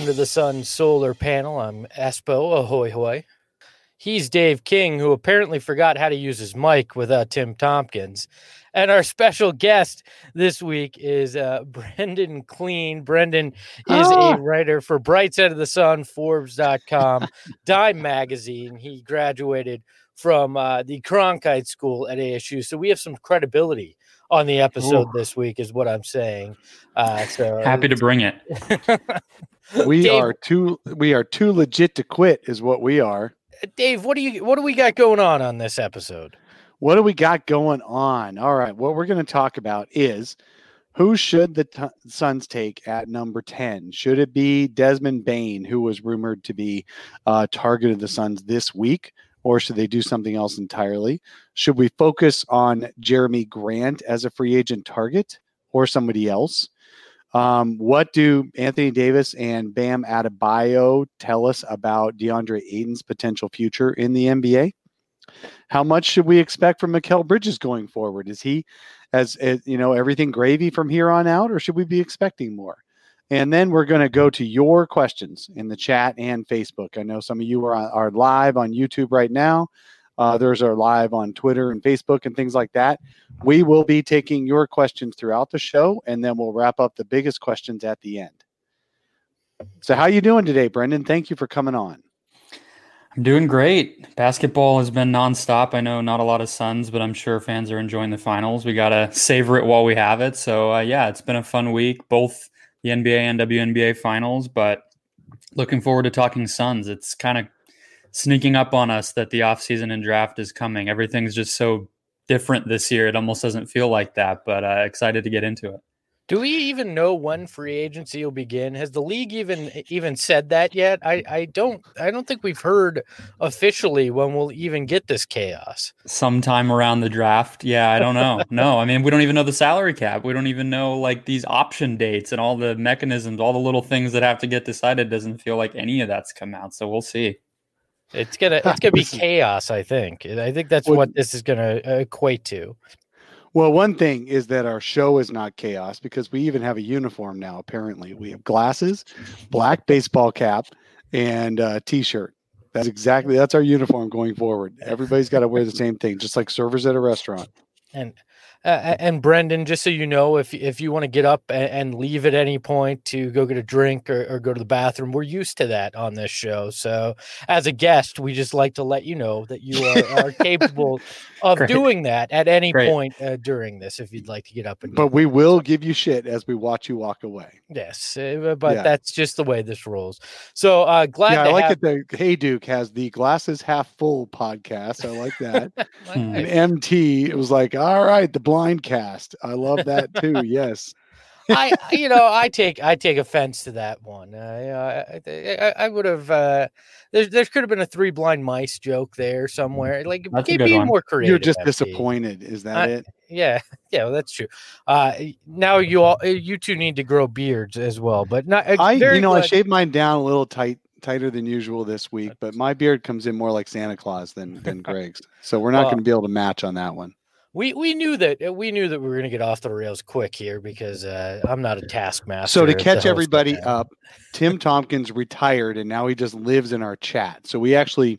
Under the Sun Solar Panel. I'm Espo, ahoy hoy. He's Dave King, who apparently forgot how to use his mic without Tim Tompkins. And our special guest this week is Brendan Clean. Brendan is a writer for Bright Side of the Sun, Forbes.com, Dime Magazine. He graduated from the Cronkite School at ASU. So we have some credibility on the episode this week is what I'm saying. So happy to bring it. We are too legit to quit is what we are. Dave, what do we got going on this episode? What do we got going on? All right, what we're going to talk about is who should the Suns take at number 10? Should it be Desmond Bane, who was rumored to be target of the Suns this week, or should they do something else entirely? Should we focus on Jeremy Grant as a free agent target or somebody else? What do Anthony Davis and Bam Adebayo tell us about DeAndre Ayton's potential future in the NBA? How much should we expect from Mikal Bridges going forward? Is he, as everything gravy from here on out, or should we be expecting more? And then we're going to go to your questions in the chat and Facebook. I know some of you are live on YouTube right now. Others are live on Twitter and Facebook and things like that. We will be taking your questions throughout the show, and then we'll wrap up the biggest questions at the end. So how you doing today, Brendan? Thank you for coming on. I'm doing great. Basketball has been nonstop. I know not a lot of Suns, but I'm sure fans are enjoying the finals. We got to savor it while we have it. So, it's been a fun week, both the NBA and WNBA finals, but looking forward to talking Suns. It's kind of sneaking up on us that the offseason and draft is coming. Everything's just so different this year. It almost doesn't feel like that, but excited to get into it. Do we even know when free agency will begin? Has the league even said that yet? I don't think we've heard officially when we'll even get this chaos. Sometime around the draft. Yeah, I don't know. No, I mean, we don't even know the salary cap. We don't even know like these option dates and all the mechanisms, all the little things that have to get decided. Doesn't feel like any of that's come out. So we'll see. It's gonna be chaos. I think that's what this is gonna equate to. Well, one thing is that our show is not chaos because we even have a uniform now. Apparently, we have glasses, black baseball cap, and T-shirt. That's our uniform going forward. Everybody's got to wear the same thing, just like servers at a restaurant. And Brendan, just so you know, if you want to get up and leave at any point to go get a drink or go to the bathroom, we're used to that on this show. So as a guest, we just like to let you know that you are capable of doing that at any point during this, if you'd like to get up and But we will give you shit as we watch you walk away. Yes, that's just the way this rolls. So glad to I like have... that the Hey Duke has the Glasses Half Full podcast. I like that. And MT, it was like, all right, the blind cast. I love that too. Yes. I take offense to that one. I would have. There could have been a Three Blind Mice joke there somewhere. Like, be more creative. You're just disappointed. Is that it? Yeah, well, that's true. Now you two need to grow beards as well. But not. I shaved mine down a little tighter than usual this week, but my beard comes in more like Santa Claus than Greg's. So we're not going to be able to match on that one. We knew that we were going to get off the rails quick here because I'm not a taskmaster. So to catch everybody up, Tim Tompkins retired and now he just lives in our chat. So we actually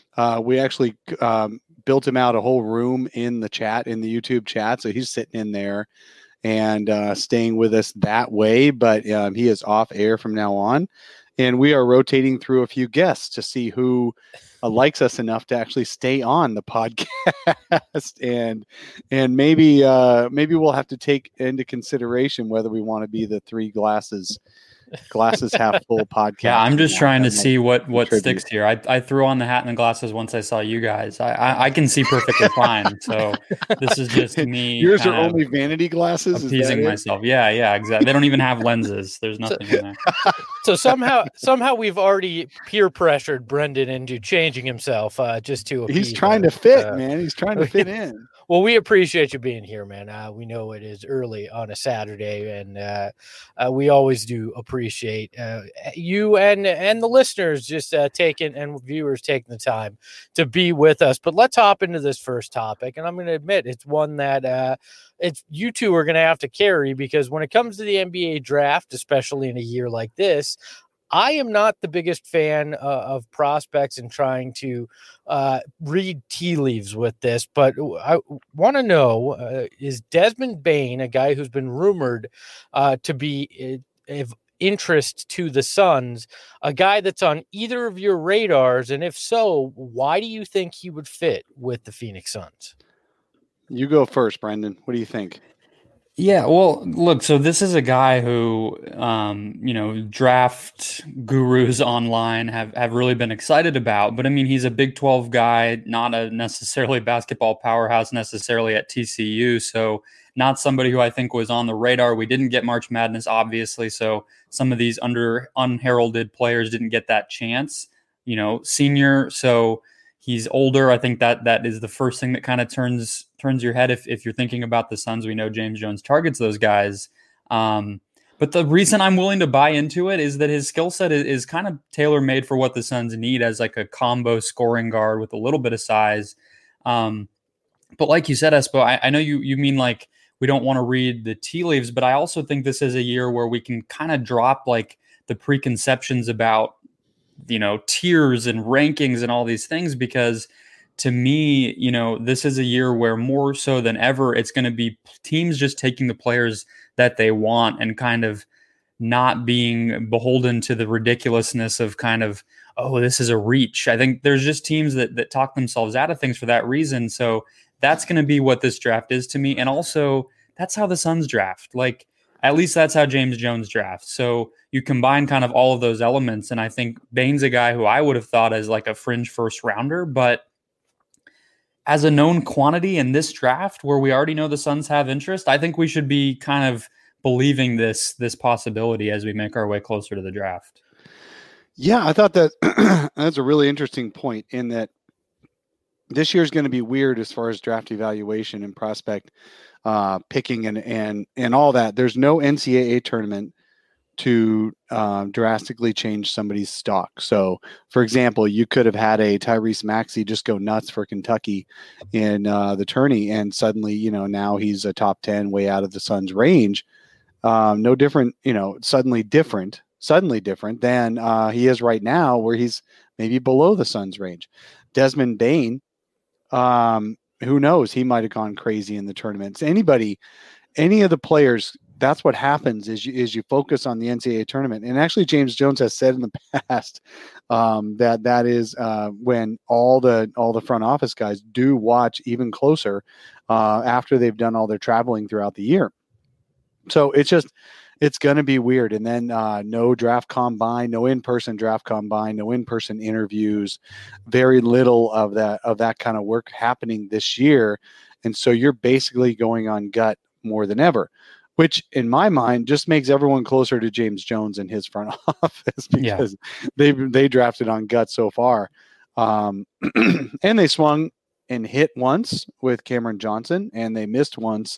built him out a whole room in the chat, in the YouTube chat. So he's sitting in there and staying with us that way. But he is off air from now on, and we are rotating through a few guests to see who likes us enough to actually stay on the podcast, and maybe we'll have to take into consideration whether we want to be the Three Glasses Half Full podcast. Yeah, I'm just trying to see what sticks here. I threw on the hat and the glasses once I saw you guys. I can see perfectly fine. So this is just me. Yours are only vanity glasses. Appeasing myself. Yeah, exactly. They don't even have lenses. There's nothing in there. So somehow we've already peer pressured Brendan into changing himself just to appease. He's trying to fit, man. He's trying to fit in. Well, we appreciate you being here, man. We know it is early on a Saturday, and we always do appreciate you and the listeners just taking and viewers taking the time to be with us. But let's hop into this first topic, and I'm going to admit it's one that it's you two are going to have to carry, because when it comes to the NBA draft, especially in a year like this, I am not the biggest fan of prospects and trying to read tea leaves with this, but I want to know, is Desmond Bane, a guy who's been rumored to be of interest to the Suns, a guy that's on either of your radars? And if so, why do you think he would fit with the Phoenix Suns? You go first, Brendan. What do you think? Yeah, well, look, so this is a guy who, draft gurus online have really been excited about. But I mean, he's a Big 12 guy, not a necessarily basketball powerhouse necessarily at TCU. So not somebody who I think was on the radar. We didn't get March Madness, obviously. So some of these unheralded players didn't get that chance, senior. So he's older. I think that is the first thing that kind of turns your head if you're thinking about the Suns. We know James Jones targets those guys. But the reason I'm willing to buy into it is that his skill set is kind of tailor-made for what the Suns need as like a combo scoring guard with a little bit of size. But like you said, Espo, I know you mean like we don't want to read the tea leaves, but I also think this is a year where we can kind of drop like the preconceptions about tiers and rankings and all these things, because to me, this is a year where more so than ever, it's going to be teams just taking the players that they want and kind of not being beholden to the ridiculousness of kind of, oh, this is a reach. I think there's just teams that talk themselves out of things for that reason. So that's going to be what this draft is to me. And also that's how the Suns draft. Like, at least that's how James Jones drafts. So you combine kind of all of those elements. And I think Bane's a guy who I would have thought as like a fringe first rounder, but as a known quantity in this draft where we already know the Suns have interest, I think we should be kind of believing this possibility as we make our way closer to the draft. Yeah, I thought that that's a really interesting point, in that this year is going to be weird as far as draft evaluation and prospect picking and all that. There's no NCAA tournament to drastically change somebody's stock. So, for example, you could have had a Tyrese Maxey just go nuts for Kentucky in the tourney, and suddenly, now he's a top 10 way out of the Suns' range. No different, suddenly different than he is right now, where he's maybe below the Suns' range. Desmond Bane, who knows? He might have gone crazy in the tournaments. Any of the players, that's what happens is you focus on the NCAA tournament. And actually, James Jones has said in the past that is when all the front office guys do watch even closer after they've done all their traveling throughout the year. So it's going to be weird. And then no draft combine, no in-person draft combine, no in-person interviews, very little of that kind of work happening this year. And so you're basically going on gut more than ever, which in my mind just makes everyone closer to James Jones and his front office, because they drafted on gut so far. And they swung and hit once with Cameron Johnson, and they missed once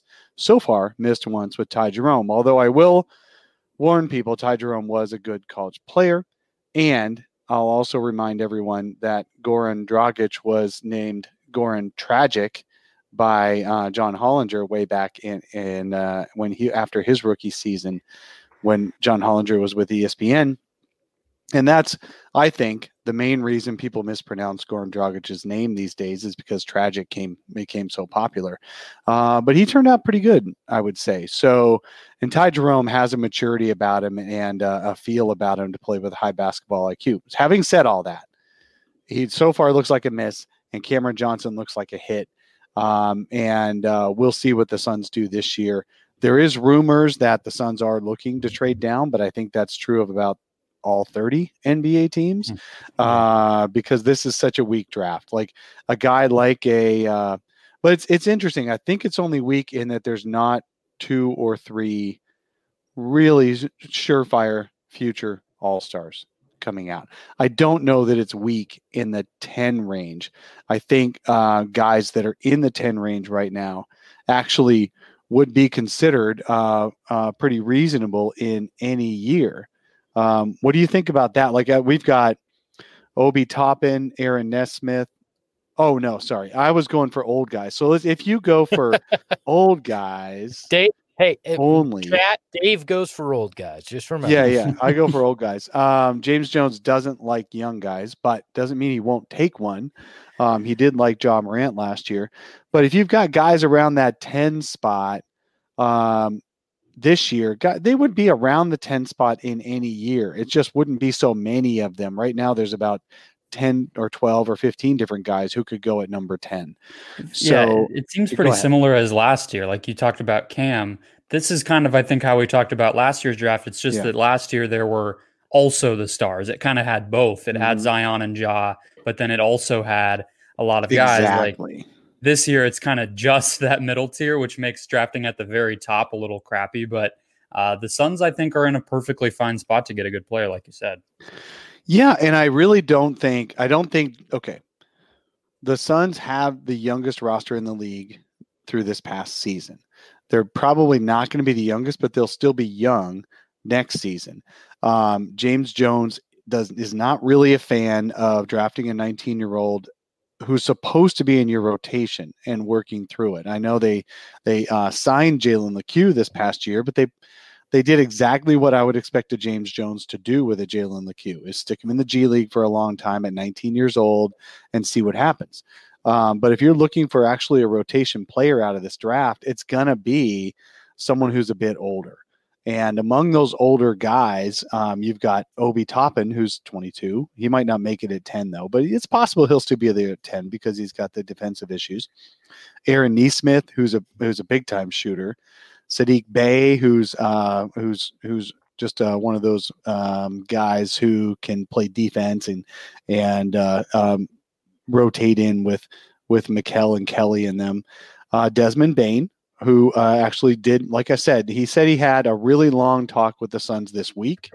with Ty Jerome. Although I will warn people, Ty Jerome was a good college player. And I'll also remind everyone that Goran Dragic was named Goran Tragic by John Hollinger way back in when after his rookie season, when John Hollinger was with ESPN. And that's, I think, the main reason people mispronounce Goran Dragic's name these days, is because Tragic became so popular. But he turned out pretty good, I would say. So, and Ty Jerome has a maturity about him and a feel about him to play with high basketball IQ. Having said all that, he so far looks like a miss, and Cameron Johnson looks like a hit. And we'll see what the Suns do this year. There is rumors that the Suns are looking to trade down, but I think that's true of about all 30 NBA teams because this is such a weak draft. Like a guy like but it's interesting. I think it's only weak in that there's not 2 or 3 really surefire future all-stars coming out. I don't know that it's weak in the 10 range. I think guys that are in the 10 range right now actually would be considered pretty reasonable in any year. What do you think about that? Like we've got Obi Toppin, Aaron Nesmith. Oh no, sorry. I was going for old guys. So if you go for old guys, Dave Hey, only. chat, Dave goes for old guys. Just remember. Yeah. I go for old guys. James Jones doesn't like young guys, but doesn't mean he won't take one. He did like Ja Morant last year. But if you've got guys around that 10 spot this year, they would be around the 10 spot in any year. It just wouldn't be so many of them. Right now, there's about 10 or 12 or 15 different guys who could go at number 10. So it seems pretty similar as last year. Like you talked about Cam. This is kind of, I think, how we talked about last year's draft. It's just that last year there were also the stars. It kind of had both. It had Zion and Ja, but then it also had a lot of guys. Exactly. Like this year, it's kind of just that middle tier, which makes drafting at the very top a little crappy. But the Suns, I think, are in a perfectly fine spot to get a good player, like you said. Yeah, and I really don't think, okay, the Suns have the youngest roster in the league through this past season. They're probably not going to be the youngest, but they'll still be young next season. James Jones is not really a fan of drafting a 19-year-old who's supposed to be in your rotation and working through it. I know they signed Jalen Lecque this past year, but they did exactly what I would expect a James Jones to do with a Jalen Lecque, is stick him in the G League for a long time at 19 years old and see what happens. But if you're looking for actually a rotation player out of this draft, it's going to be someone who's a bit older. And among those older guys, you've got Obi Toppin, who's 22. He might not make it at 10, though, but it's possible he'll still be there at 10 because he's got the defensive issues. Aaron Nesmith, who's a big-time shooter. Sadiq Bey, who's just one of those guys who can play defense and rotate in with Mikal and Kelly and them. Desmond Bane, who actually did, like I said, he said he had a really long talk with the Suns this week.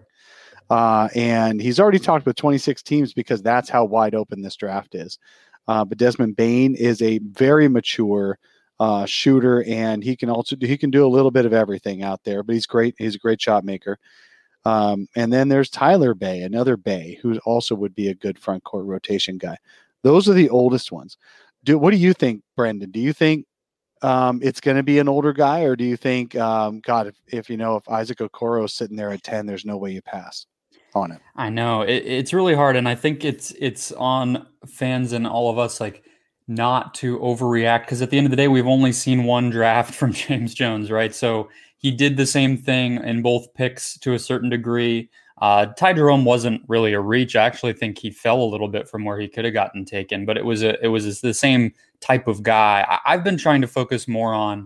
And he's already talked with 26 teams because that's how wide open this draft is. But Desmond Bane is a very mature shooter, and he can do a little bit of everything out there, but he's great. He's a great shot maker. And then there's Tyler Bey, another Bey, who also would be a good front court rotation guy. Those are the oldest ones. What do you think, Brendan? Do you think it's going to be an older guy, or do you think, God, if Isaac Okoro is sitting there at 10, there's no way you pass on it? I know it's really hard, and I think it's on fans and all of us not to overreact, because at the end of the day, we've only seen one draft from James Jones, right? So he did the same thing in both picks to a certain degree. Ty Jerome wasn't really a reach. I actually think he fell a little bit from where he could have gotten taken, but it was the same type of guy. I've been trying to focus more on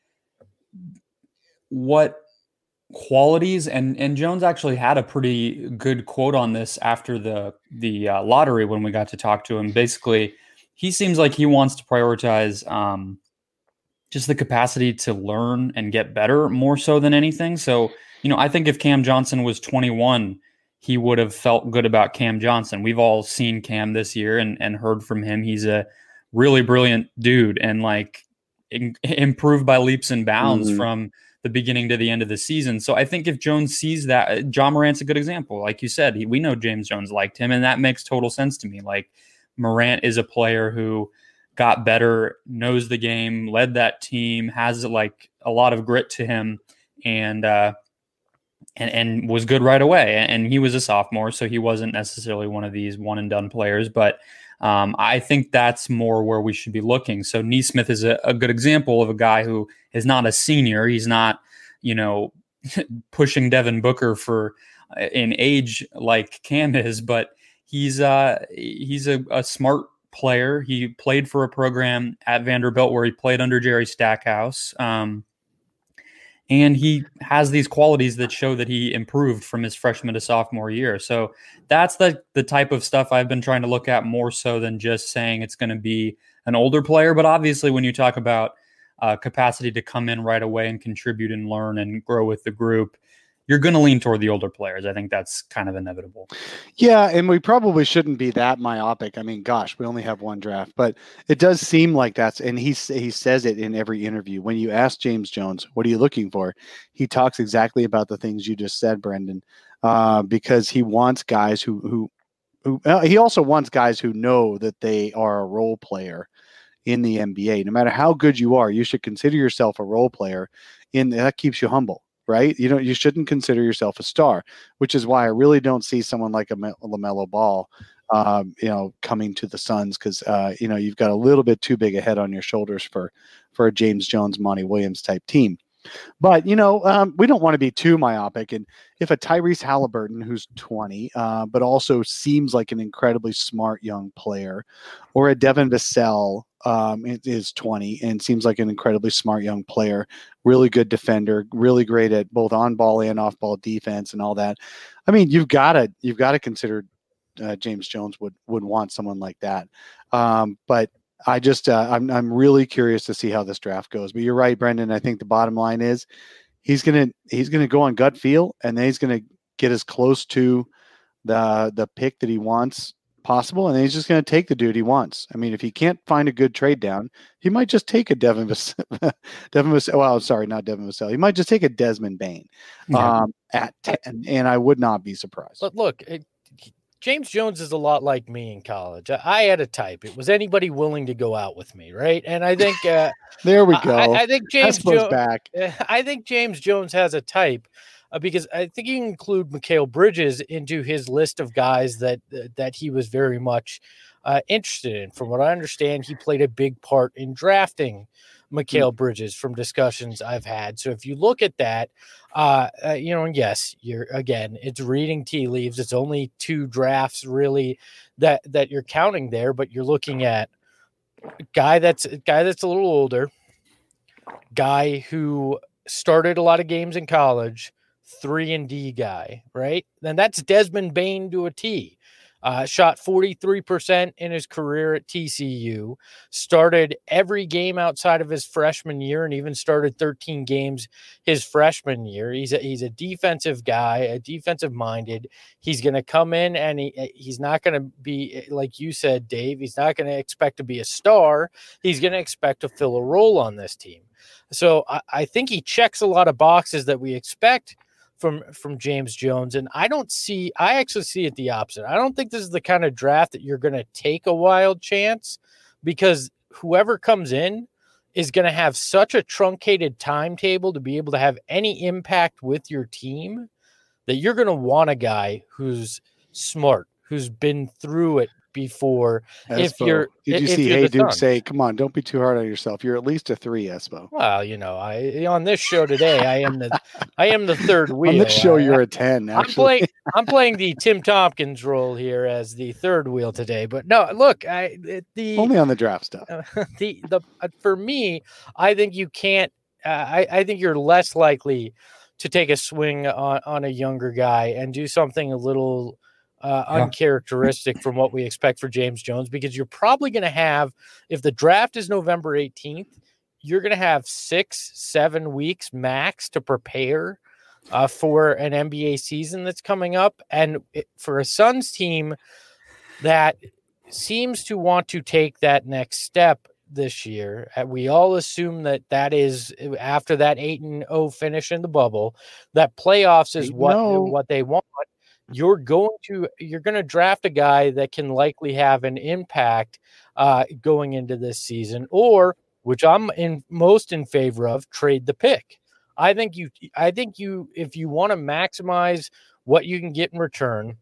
what qualities, and Jones actually had a pretty good quote on this after the lottery when we got to talk to him. Basically, he seems like he wants to prioritize just the capacity to learn and get better more so than anything. So, I think if Cam Johnson was 21, he would have felt good about Cam Johnson. We've all seen Cam this year and heard from him. He's a really brilliant dude and improved by leaps and bounds from the beginning to the end of the season. So I think if Jones sees that, Ja Morant's a good example. Like you said, we know James Jones liked him, and that makes total sense to me. Like, Morant is a player who got better, knows the game, led that team, has a lot of grit to him, and was good right away. And he was a sophomore, so he wasn't necessarily one of these one and done players. But I think that's more where we should be looking. So Nesmith is a good example of a guy who is not a senior. He's not, pushing Devin Booker for in age like Cam is, but he's a smart player. He played for a program at Vanderbilt where he played under Jerry Stackhouse. And he has these qualities that show that he improved from his freshman to sophomore year. So that's the type of stuff I've been trying to look at more so than just saying it's going to be an older player. But obviously, when you talk about capacity to come in right away and contribute and learn and grow with the group, you're going to lean toward the older players. I think that's kind of inevitable. Yeah, and we probably shouldn't be that myopic. I mean, gosh, we only have one draft, but it does seem like that's, and he says it in every interview. When you ask James Jones, what are you looking for? He talks exactly about the things you just said, Brendan, because he wants guys who he also wants guys who know that they are a role player in the NBA. No matter how good you are, you should consider yourself a role player. That keeps you humble, right? You shouldn't consider yourself a star, which is why I really don't see someone like a LaMelo Ball, coming to the Suns because you've got a little bit too big a head on your shoulders for a James Jones, Monty Williams type team. But, we don't want to be too myopic. And if a Tyrese Halliburton, who's 20, but also seems like an incredibly smart young player, or a Devin Vassell is 20 and seems like an incredibly smart young player, really good defender, really great at both on-ball and off-ball defense and all that. I mean, you've got to consider James Jones would want someone like that. But I just I'm really curious to see how this draft goes. But you're right, Brendan. I think the bottom line is he's gonna go on gut feel, and then he's gonna get as close to the pick that he wants possible, and then he's just gonna take the dude he wants. I mean, if he can't find a good trade down, he might just take a Devin Vassell. Well, sorry, not Devin Vassell. He might just take a Desmond Bane at 10, and I would not be surprised. But look, James Jones is a lot like me in college. I had a type. It was anybody willing to go out with me, right? And I think there we go. I think James Jones back. I think James Jones has a type because I think you can include Mikal Bridges into his list of guys that he was very much interested in. From what I understand, he played a big part in drafting Mikal Bridges from discussions I've had. So if you look at that, and yes, it's reading tea leaves. It's only 2 drafts really that you're counting there, but you're looking at a guy that's a little older, guy who started a lot of games in college, 3-and-D guy, right? Then that's Desmond Bane to a T. Shot 43% in his career at TCU, started every game outside of his freshman year, and even started 13 games his freshman year. He's a defensive guy, a defensive minded. He's going to come in and he's not going to be, like you said, Dave, he's not going to expect to be a star. He's going to expect to fill a role on this team. So I think he checks a lot of boxes that we expect from James Jones. And I actually see it the opposite. I don't think this is the kind of draft that you're going to take a wild chance, because whoever comes in is going to have such a truncated timetable to be able to have any impact with your team that you're going to want a guy who's smart, who's been through it before. Did you see Hey Duke say, come on, don't be too hard on yourself. You're at least a 3, Espo. Well, on this show today, I am the third wheel. On this show, you're a 10, actually. I'm playing the Tim Tompkins role here as the third wheel today. But no, look, only on the draft stuff. For me, I think you can't. I think you're less likely to take a swing on a younger guy and do something a little uncharacteristic from what we expect for James Jones, because you're probably going to have, if the draft is November 18th, you're going to have 6-7 weeks max to prepare for an NBA season that's coming up. And for a Suns team that seems to want to take that next step this year, we all assume that is after that 8-0 finish in the bubble, that playoffs is what they want. You're going to draft a guy that can likely have an impact going into this season, or, which I'm most in favor of, trade the pick. I think you if you want to maximize what you can get in return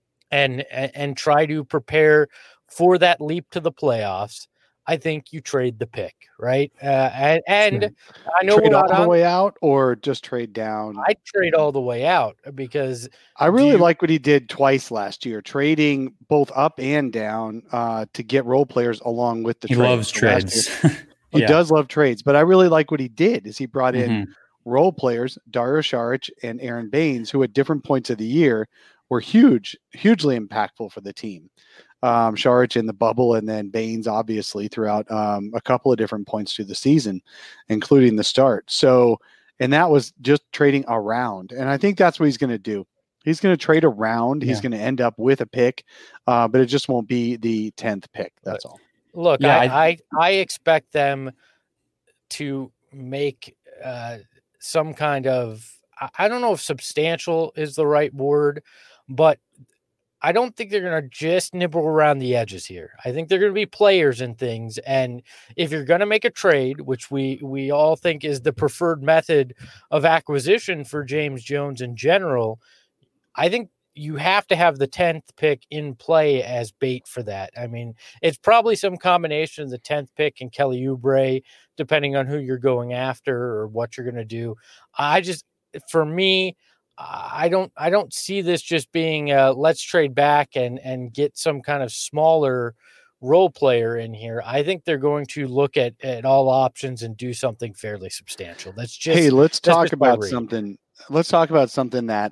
and try to prepare for that leap to the playoffs, I think you trade the pick, right? And I know trade all the way out, or just trade down. I'd trade all the way out, because I really like what he did twice last year, trading both up and down to get role players along with the trades. He loves trades. He does love trades, but I really like what he did is he brought in role players, Dario Saric and Aaron Baines, who at different points of the year were hugely impactful for the team. Saric in the bubble, and then Baines obviously throughout a couple of different points through the season, including the start. So, and that was just trading around. And I think that's what he's going to do. He's going to trade around. He's going to end up with a pick, but it just won't be the 10th pick. That's all. Look, I expect them to make some kind of, I don't know if substantial is the right word, but I don't think they're going to just nibble around the edges here. I think they're going to be players and things. And if you're going to make a trade, which we all think is the preferred method of acquisition for James Jones in general, I think you have to have the 10th pick in play as bait for that. I mean, it's probably some combination of the 10th pick and Kelly Oubre, depending on who you're going after or what you're going to do. For me, I don't see this just being let's trade back and get some kind of smaller role player in here. I think they're going to look at all options and do something fairly substantial. Let's talk about something. Let's talk about something that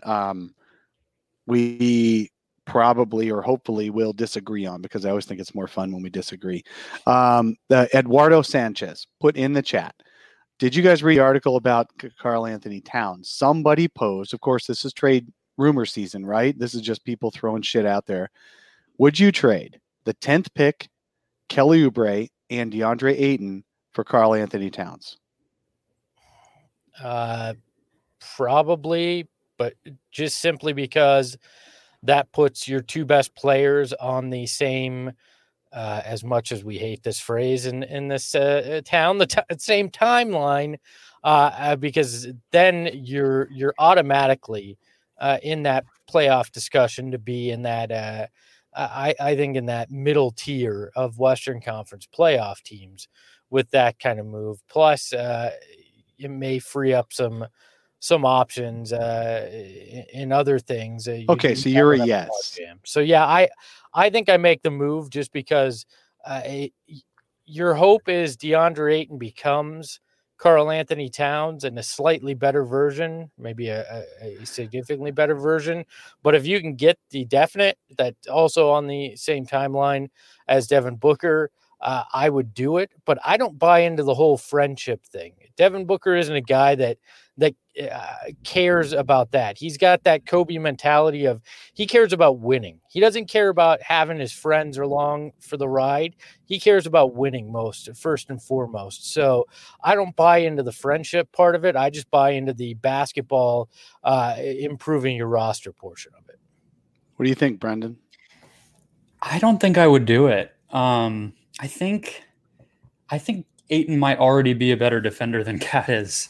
we probably or hopefully will disagree on, because I always think it's more fun when we disagree. Eduardo Sanchez put in the chat, did you guys read the article about Karl-Anthony Towns? Somebody posed, of course, this is trade rumor season, right? This is just people throwing shit out there. Would you trade the 10th pick, Kelly Oubre, and DeAndre Ayton for Karl-Anthony Towns? Probably, but just simply because that puts your two best players on the same, as much as we hate this phrase in this town, same timeline, because then you're automatically in that playoff discussion to be in that, I think in that middle tier of Western Conference playoff teams with that kind of move. Plus, it may free up some options in other things. So you're a yes. So yeah, I think I make the move just because your hope is DeAndre Ayton becomes Karl-Anthony Towns in a slightly better version, maybe a significantly better version. But if you can get the definite that's also on the same timeline as Devin Booker, I would do it. But I don't buy into the whole friendship thing. Devin Booker isn't a guy that cares about that. He's got that Kobe mentality of he cares about winning. He doesn't care about having his friends along for the ride. He cares about winning first and foremost. So I don't buy into the friendship part of it. I just buy into the basketball, improving your roster portion of it. What do you think, Brendan? I don't think I would do it. I think Ayton might already be a better defender than Cat is.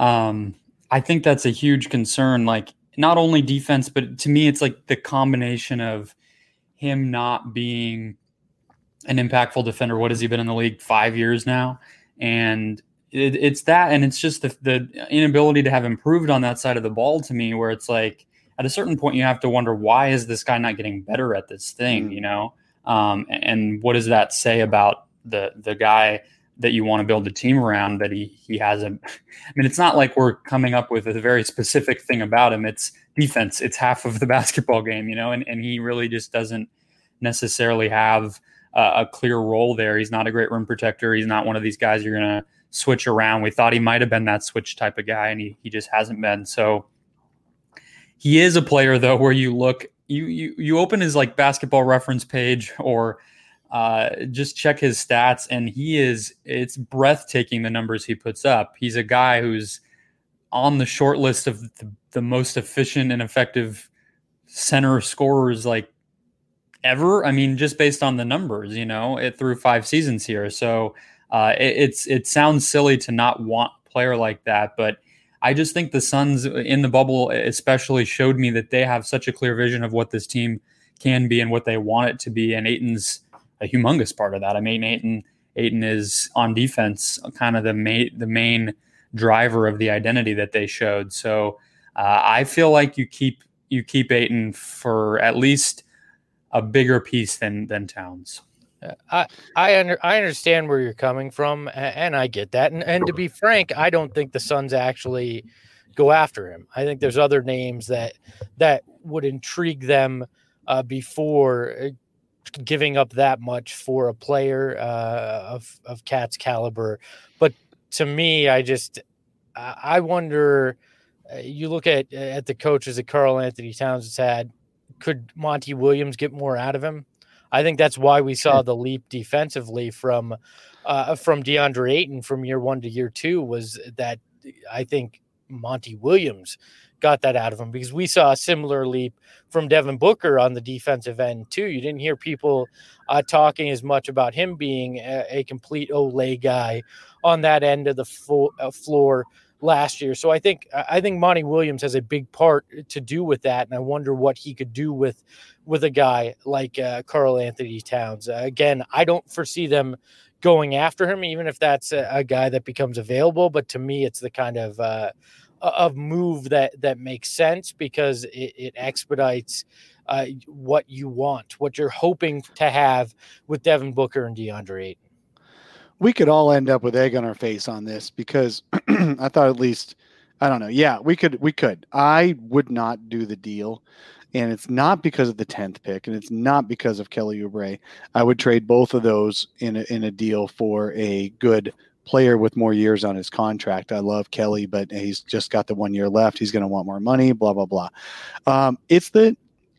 I think that's a huge concern. Like, not only defense, but to me, it's like the combination of him not being an impactful defender. What has he been in the league? 5 years now? And it's that, and it's just the inability to have improved on that side of the ball to me, where it's like, at a certain point, you have to wonder, why is this guy not getting better at this thing, you know? And what does that say about the guy that you want to build a team around, that he hasn't? I mean, it's not like we're coming up with a very specific thing about him. It's defense. It's half of the basketball game, you know, and he really just doesn't necessarily have a clear role there. He's not a great rim protector. He's not one of these guys you're going to switch around. We thought he might have been that switch type of guy, and he just hasn't been. So he is a player, though, where you look, you open his like basketball reference page or just check his stats, and it's breathtaking the numbers he puts up. He's a guy who's on the short list of the most efficient and effective center scorers like ever. I mean, just based on the numbers, you know, through 5 seasons here. So it sounds silly to not want a player like that, but I just think the Suns in the bubble especially showed me that they have such a clear vision of what this team can be and what they want it to be. And Ayton's a humongous part of that. I mean, Ayton is on defense, kind of the main driver of the identity that they showed. So I feel like you keep Ayton for at least a bigger piece than Towns. I understand where you're coming from, and I get that. And to be frank, I don't think the Suns actually go after him. I think there's other names that would intrigue them before giving up that much for a player of Cat's caliber. But to me, I wonder. You look at the coaches that Karl-Anthony Towns has had. Could Monty Williams get more out of him? I think that's why we saw the leap defensively from DeAndre Ayton from year 1 to year 2, was that I think Monty Williams got that out of him, because we saw a similar leap from Devin Booker on the defensive end too. You didn't hear people talking as much about him being a complete Olay guy on that end of the floor last year. So I think Monty Williams has a big part to do with that, and I wonder what he could do with a guy like Karl Anthony Towns. Again, I don't foresee them going after him, even if that's a guy that becomes available. But to me, it's the kind of move that makes sense, because it expedites what you want, what you're hoping to have with Devin Booker and DeAndre Ayton. We could all end up with egg on our face on this, because I thought, at least, I don't know. Yeah, we could. I would not do the deal. And it's not because of the 10th pick, and it's not because of Kelly Oubre. I would trade both of those in a deal for a good player with more years on his contract. I love Kelly, but he's just got the 1 year left. He's going to want more money, blah, blah, blah. It's the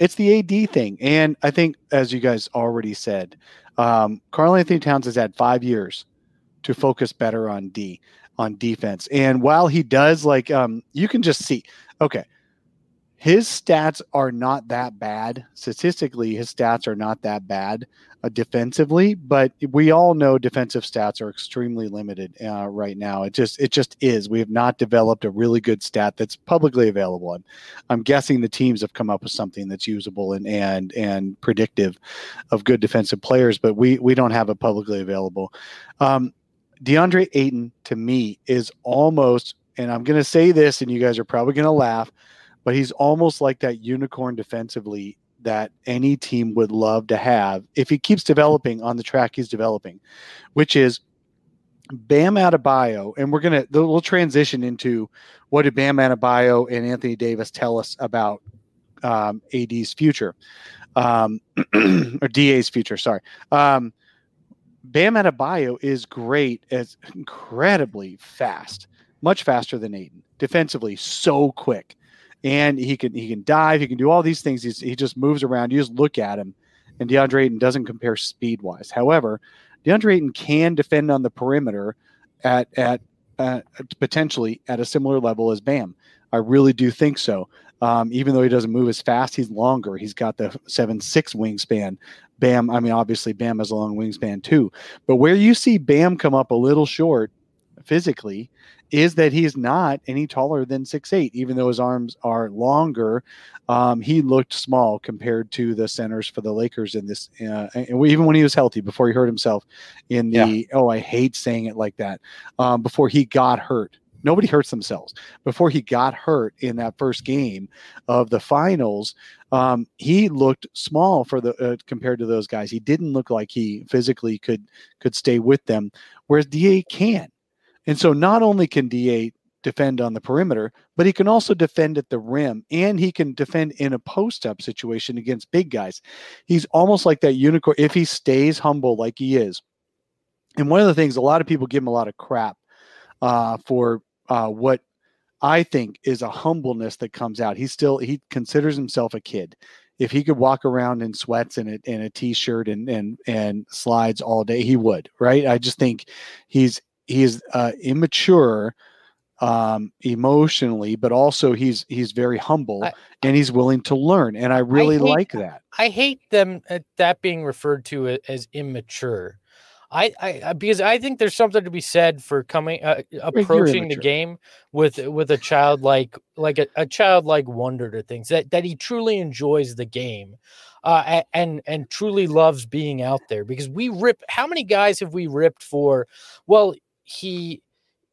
AD thing. And I think, as you guys already said, Karl Anthony Towns has had 5 years to focus better on defense. And while he does, you can just see, okay, his stats are not that bad. Statistically, his stats are not that bad defensively, but we all know defensive stats are extremely limited right now. It just is. We have not developed a really good stat that's publicly available. I'm guessing the teams have come up with something that's usable and predictive of good defensive players, but we don't have it publicly available. DeAndre Ayton, to me, is almost, and I'm going to say this, and you guys are probably going to laugh, but he's almost like that unicorn defensively that any team would love to have if he keeps developing on the track he's developing, which is Bam Adebayo. And we'll transition into what did Bam Adebayo and Anthony Davis tell us about AD's future, or DA's future. Sorry. Bam Adebayo is great, as incredibly fast, much faster than Ayton, defensively, so quick. And he can dive. He can do all these things. He just moves around. You just look at him, and DeAndre Ayton doesn't compare speed-wise. However, DeAndre Ayton can defend on the perimeter at potentially at a similar level as Bam. I really do think so. Even though he doesn't move as fast, he's longer. He's got the 7'6" wingspan. Bam, obviously Bam has a long wingspan too. But where you see Bam come up a little short physically is that he's not any taller than 6'8", even though his arms are longer. He looked small compared to the centers for the Lakers in this, even when he was healthy, before he hurt himself in the, I hate saying it like that, before he got hurt. Nobody hurts themselves. Before he got hurt in that first game of the finals, he looked small for compared to those guys. He didn't look like he physically could stay with them, whereas DA can. And so not only can DA defend on the perimeter, but he can also defend at the rim, and he can defend in a post-up situation against big guys. He's almost like that unicorn if he stays humble like he is. And one of the things, a lot of people give him a lot of crap for what I think is a humbleness that comes out. He considers himself a kid. If he could walk around in sweats and a t-shirt and slides all day, he would, right? I just think he's immature emotionally, but also he's very humble and he's willing to learn. And I really like that. I hate that being referred to as immature. I because I think there's something to be said for approaching the game with a childlike a childlike wonder to things that he truly enjoys the game, and truly loves being out there. Because how many guys have we ripped for? Well, he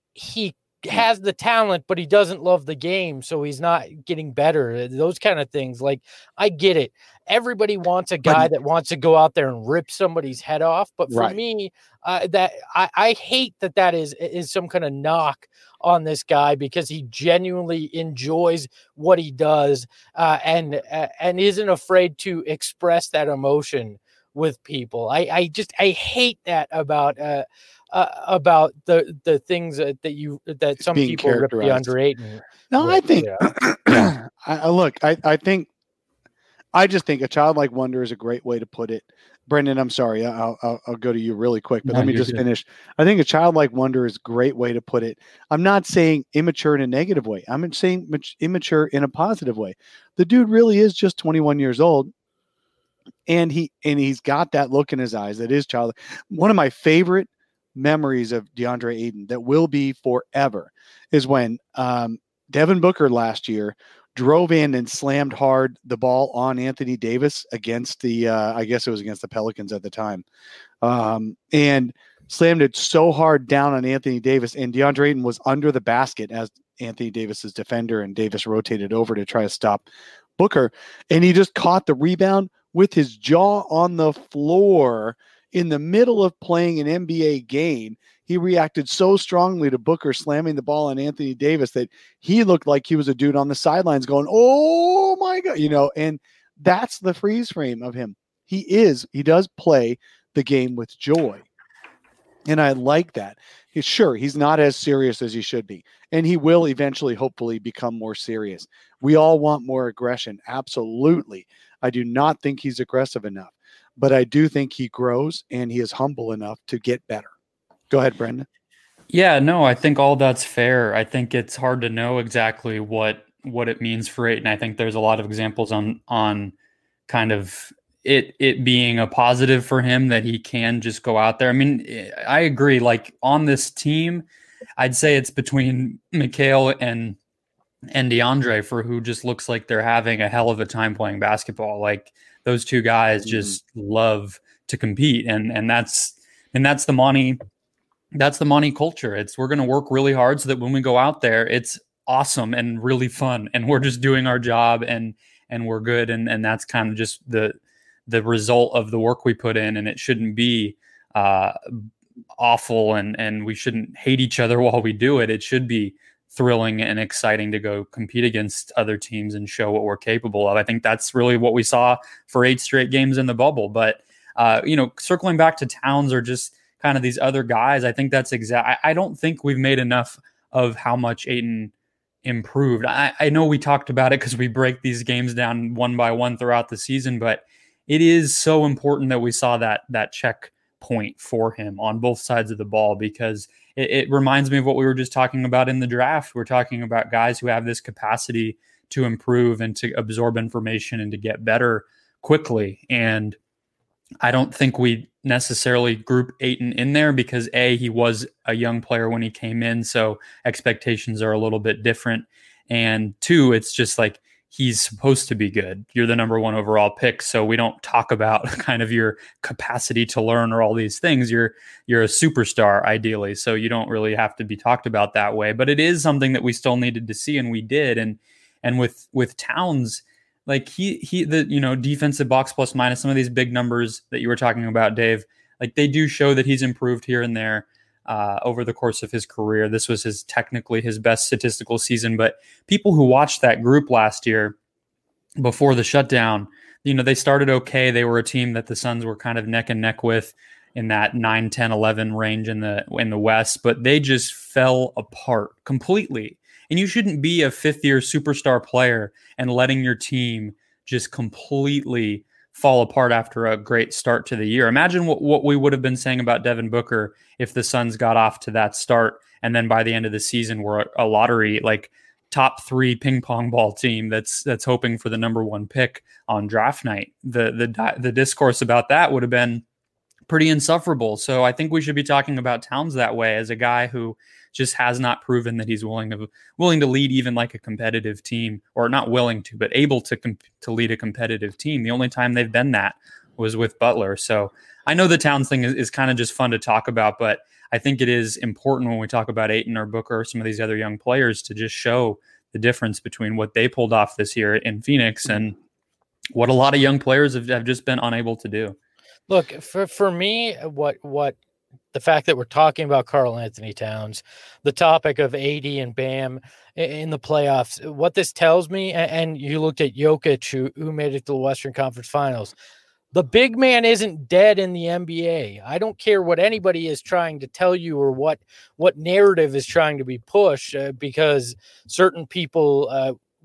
has the talent, but he doesn't love the game, so he's not getting better. Those kind of things. Like, I get it. Everybody wants a guy that wants to go out there and rip somebody's head off. But for me, that I hate that is some kind of knock on this guy, because he genuinely enjoys what he does, and isn't afraid to express that emotion with people. I hate that about the things that some people rip DeAndre Ayton. No, I think I just think a childlike wonder is a great way to put it. Brendan, I'm sorry. I'll go to you really quick, but No, let me you're just good. finish. I think a childlike wonder is a great way to put it. I'm not saying immature in a negative way. I'm saying immature in a positive way. The dude really is just 21 years old, and he's got that look in his eyes that is childlike. One of my favorite memories of DeAndre Ayton that will be forever is when Devin Booker last year drove in and slammed hard the ball on Anthony Davis against the I guess it was against the Pelicans at the time, and slammed it so hard down on Anthony Davis, and DeAndre Ayton was under the basket as Anthony Davis's defender, and Davis rotated over to try to stop Booker, and he just caught the rebound with his jaw on the floor in the middle of playing an NBA game. He reacted so strongly to Booker slamming the ball on Anthony Davis that he looked like he was a dude on the sidelines going, "Oh my God," and that's the freeze frame of him. He does play the game with joy. And I like that. He's not as serious as he should be. And he will eventually, hopefully, become more serious. We all want more aggression. Absolutely. I do not think he's aggressive enough, but I do think he grows and he is humble enough to get better. Go ahead, Brendan. Yeah, no, I think all that's fair. I think it's hard to know exactly what it means for Ayton. I think there's a lot of examples on kind of it being a positive for him that he can just go out there. I mean, I agree. Like on this team, I'd say it's between Mikal and DeAndre for who just looks like they're having a hell of a time playing basketball. Like those two guys just love to compete, and that's the money. That's the money culture. We're going to work really hard so that when we go out there, it's awesome and really fun, and we're just doing our job and we're good. And that's kind of just the result of the work we put in. And it shouldn't be awful and we shouldn't hate each other while we do it. It should be thrilling and exciting to go compete against other teams and show what we're capable of. I think that's really what we saw for 8 straight games in the bubble. But, circling back to Towns or just kind of these other guys, I think that's I don't think we've made enough of how much Ayton improved. I know we talked about it because we break these games down one by one throughout the season, but it is so important that we saw that check point for him on both sides of the ball, because it reminds me of what we were just talking about in the draft. We're talking about guys who have this capacity to improve and to absorb information and to get better quickly. And I don't think we necessarily group Ayton in there because he was a young player when he came in, so expectations are a little bit different. And 2, it's just like he's supposed to be good. You're the number 1 overall pick, so we don't talk about kind of your capacity to learn or all these things. You're a superstar ideally, so you don't really have to be talked about that way. But it is something that we still needed to see, and we did. And with Towns, like the defensive box plus minus, some of these big numbers that you were talking about, Dave, like they do show that he's improved here and there over the course of his career. This was technically his best statistical season, but people who watched that group last year before the shutdown, they started okay. They were a team that the Suns were kind of neck and neck with in that 9, 10, 11 range in the West, but they just fell apart completely. And you shouldn't be a 5th-year superstar player and letting your team just completely fall apart after a great start to the year. Imagine what we would have been saying about Devin Booker if the Suns got off to that start, and then by the end of the season we're a lottery, like top 3 ping pong ball team that's hoping for the number 1 pick on draft night. The discourse about that would have been pretty insufferable. So I think we should be talking about Towns that way, as a guy who just has not proven that he's willing to lead even like a competitive team, or not willing to, but able to lead a competitive team. The only time they've been that was with Butler. So I know the Towns thing is kind of just fun to talk about, but I think it is important when we talk about Ayton or Booker or some of these other young players to just show the difference between what they pulled off this year in Phoenix and what a lot of young players have just been unable to do. Look, for me, what the fact that we're talking about Karl Anthony Towns, the topic of AD and Bam in the playoffs, what this tells me, and you looked at Jokic, who made it to the Western Conference Finals, the big man isn't dead in the NBA. I don't care what anybody is trying to tell you or what narrative is trying to be pushed, because certain people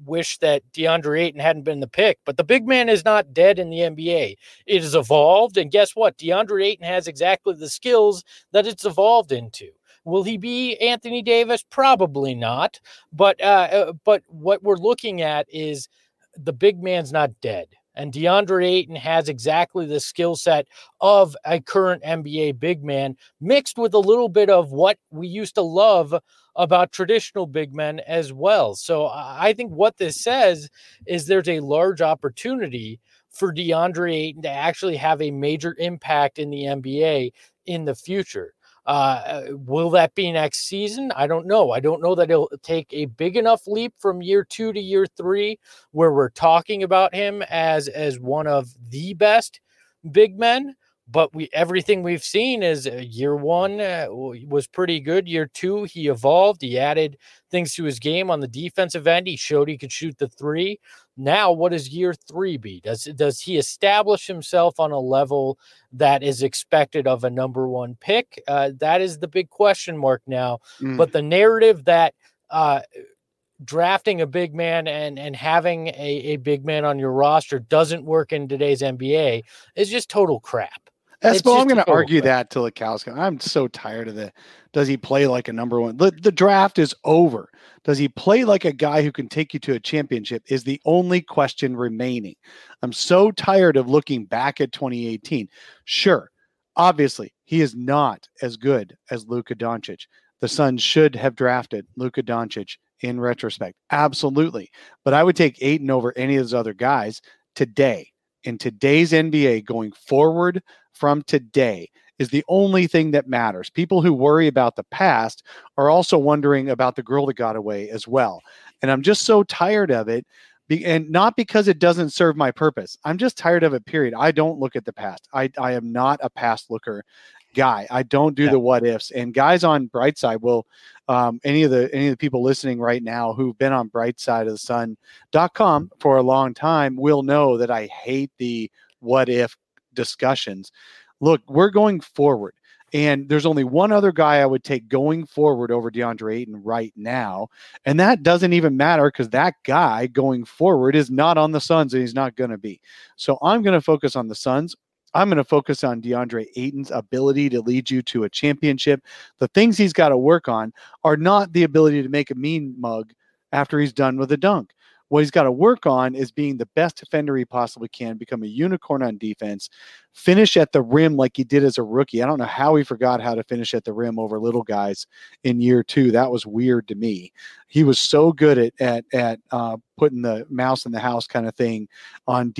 wish that DeAndre Ayton hadn't been the pick, but the big man is not dead in the NBA. It has evolved, and guess what? DeAndre Ayton has exactly the skills that it's evolved into. Will he be Anthony Davis? Probably not. But what we're looking at is the big man's not dead. And DeAndre Ayton has exactly the skill set of a current NBA big man, mixed with a little bit of what we used to love about traditional big men as well. So I think what this says is there's a large opportunity for DeAndre Ayton to actually have a major impact in the NBA in the future. Will that be next season? I don't know. I don't know that it'll take a big enough leap from year 2 to year 3 where we're talking about him as one of the best big men. But everything we've seen is year 1 was pretty good. Year 2, he evolved. He added things to his game on the defensive end. He showed he could shoot the 3. Now, what does year 3 be? Does he establish himself on a level that is expected of a number 1 pick? That is the big question mark now. But the narrative that drafting a big man and having a big man on your roster doesn't work in today's NBA is just total crap. Espo, I'm going to argue that till the cows come. I'm so tired of the, does he play like a number 1? The draft is over. Does he play like a guy who can take you to a championship is the only question remaining. I'm so tired of looking back at 2018. Sure, obviously, he is not as good as Luka Doncic. The Suns should have drafted Luka Doncic in retrospect. Absolutely. But I would take Ayton over any of those other guys today. In today's NBA, going forward from today is the only thing that matters. People who worry about the past are also wondering about the girl that got away as well. And I'm just so tired of it. And not because it doesn't serve my purpose. I'm just tired of it, period. I don't look at the past. I am not a past looker guy. I don't do the what ifs. And guys on Brightside will, any of the people listening right now who've been on brightsideofthesun.com for a long time will know that I hate the what if discussions. Look, we're going forward. And there's only one other guy I would take going forward over DeAndre Ayton right now. And that doesn't even matter because that guy going forward is not on the Suns and he's not going to be. So I'm going to focus on the Suns. I'm going to focus on DeAndre Ayton's ability to lead you to a championship. The things he's got to work on are not the ability to make a mean mug after he's done with a dunk. What he's got to work on is being the best defender he possibly can, become a unicorn on defense, finish at the rim like he did as a rookie. I don't know how he forgot how to finish at the rim over little guys in year 2. That was weird to me. He was so good at putting the mouse in the house kind of thing on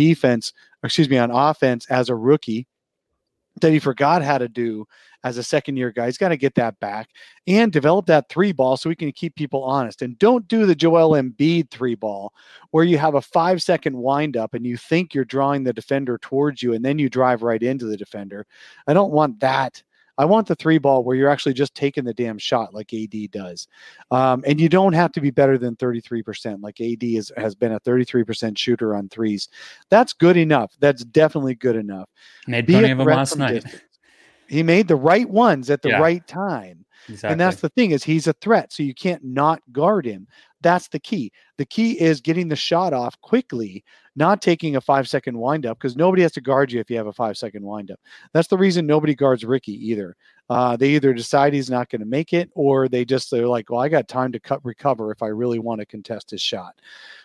on offense as a rookie that he forgot how to do as a second-year guy. He's got to get that back and develop that 3-ball so we can keep people honest. And don't do the Joel Embiid 3-ball where you have a 5-second windup and you think you're drawing the defender towards you and then you drive right into the defender. I don't want that. I want the 3-ball where you're actually just taking the damn shot like AD does. And you don't have to be better than 33%. Like AD has been a 33% shooter on threes. That's good enough. That's definitely good enough. Made plenty of them last night. He made the right ones at the right time. Exactly. And that's the thing is he's a threat. So you can't not guard him. That's the key. The key is getting the shot off quickly, not taking a 5-second windup because nobody has to guard you if you have a 5-second windup. That's the reason nobody guards Ricky either. They either decide he's not going to make it or they're like, well, I got time to recover if I really want to contest his shot.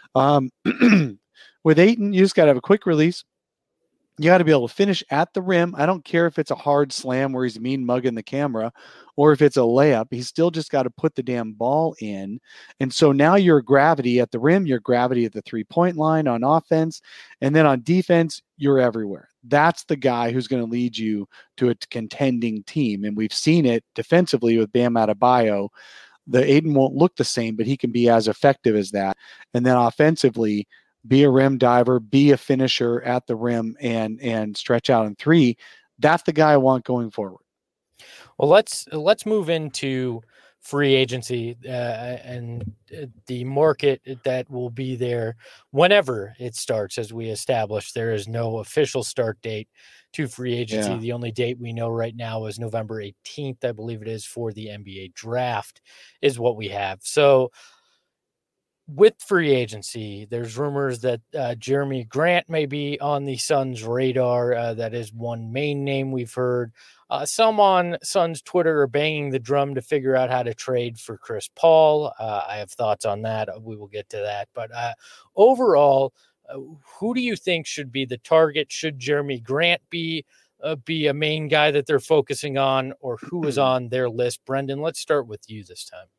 With Ayton, you just got to have a quick release. You got to be able to finish at the rim. I don't care if it's a hard slam where he's mean mugging the camera or if it's a layup. He's still just got to put the damn ball in. And so now your gravity at the rim, your gravity at the 3-point line on offense, and then on defense, you're everywhere. That's the guy who's going to lead you to a contending team. And we've seen it defensively with Bam Adebayo. The Ayton won't look the same, but he can be as effective as that. And then offensively, be a rim diver, be a finisher at the rim and stretch out in 3. That's the guy I want going forward. Well, let's move into free agency and the market that will be there whenever it starts. As we established, there is no official start date to free agency. Yeah. The only date we know right now is November 18th, I believe it is, for the NBA draft is what we have. So with free agency, there's rumors that Jeremy Grant may be on the Suns' radar. That is one main name we've heard. Some on Suns Twitter are banging the drum to figure out how to trade for Chris Paul. I have thoughts on that. We will get to that. But overall, who do you think should be the target? Should Jeremy Grant be a main guy that they're focusing on, or who is on their list? Brendan, let's start with you this time.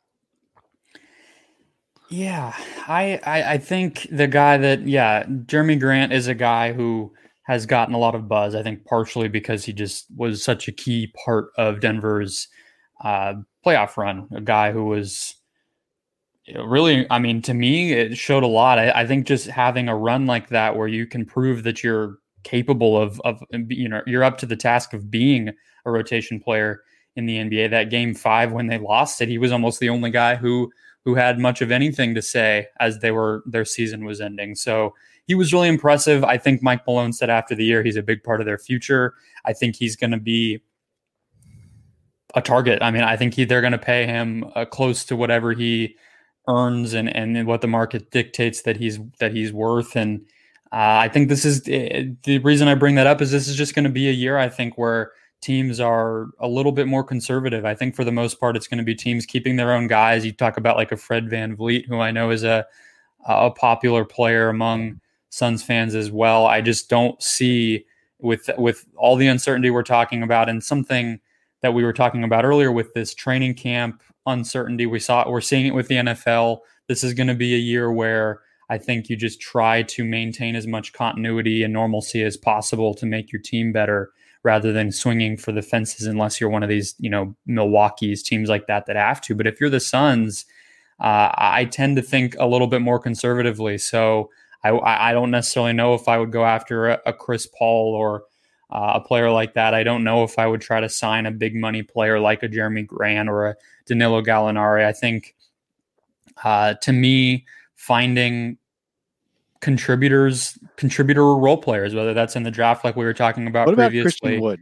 Yeah, I think the guy that, Jeremy Grant is a guy who has gotten a lot of buzz, I think partially because he just was such a key part of Denver's playoff run, a guy who was really, I mean, to me, it showed a lot. I think just having a run like that where you can prove that you're capable of you're up to the task of being a rotation player in the NBA. That game 5 when they lost it, he was almost the only guy who had much of anything to say as their season was ending. So he was really impressive. I think Mike Malone said after the year, he's a big part of their future. I think he's going to be a target. I mean, I think they're going to pay him close to whatever he earns and what the market dictates that he's worth. And I think this is the reason I bring that up is this is just going to be a year, I think, where teams are a little bit more conservative. I think for the most part, it's going to be teams keeping their own guys. You talk about like a Fred VanVleet, who I know is a popular player among Suns fans as well. I just don't see with all the uncertainty we're talking about and something that we were talking about earlier with this training camp uncertainty. We're seeing it with the NFL. This is going to be a year where I think you just try to maintain as much continuity and normalcy as possible to make your team better, rather than swinging for the fences unless you're one of these, Milwaukee's teams like that have to. But if you're the Suns, I tend to think a little bit more conservatively. So I don't necessarily know if I would go after a Chris Paul or a player like that. I don't know if I would try to sign a big money player like a Jeremy Grant or a Danilo Gallinari. I think, to me, finding contributor role players, whether that's in the draft like we were talking about previously. What about Christian Wood?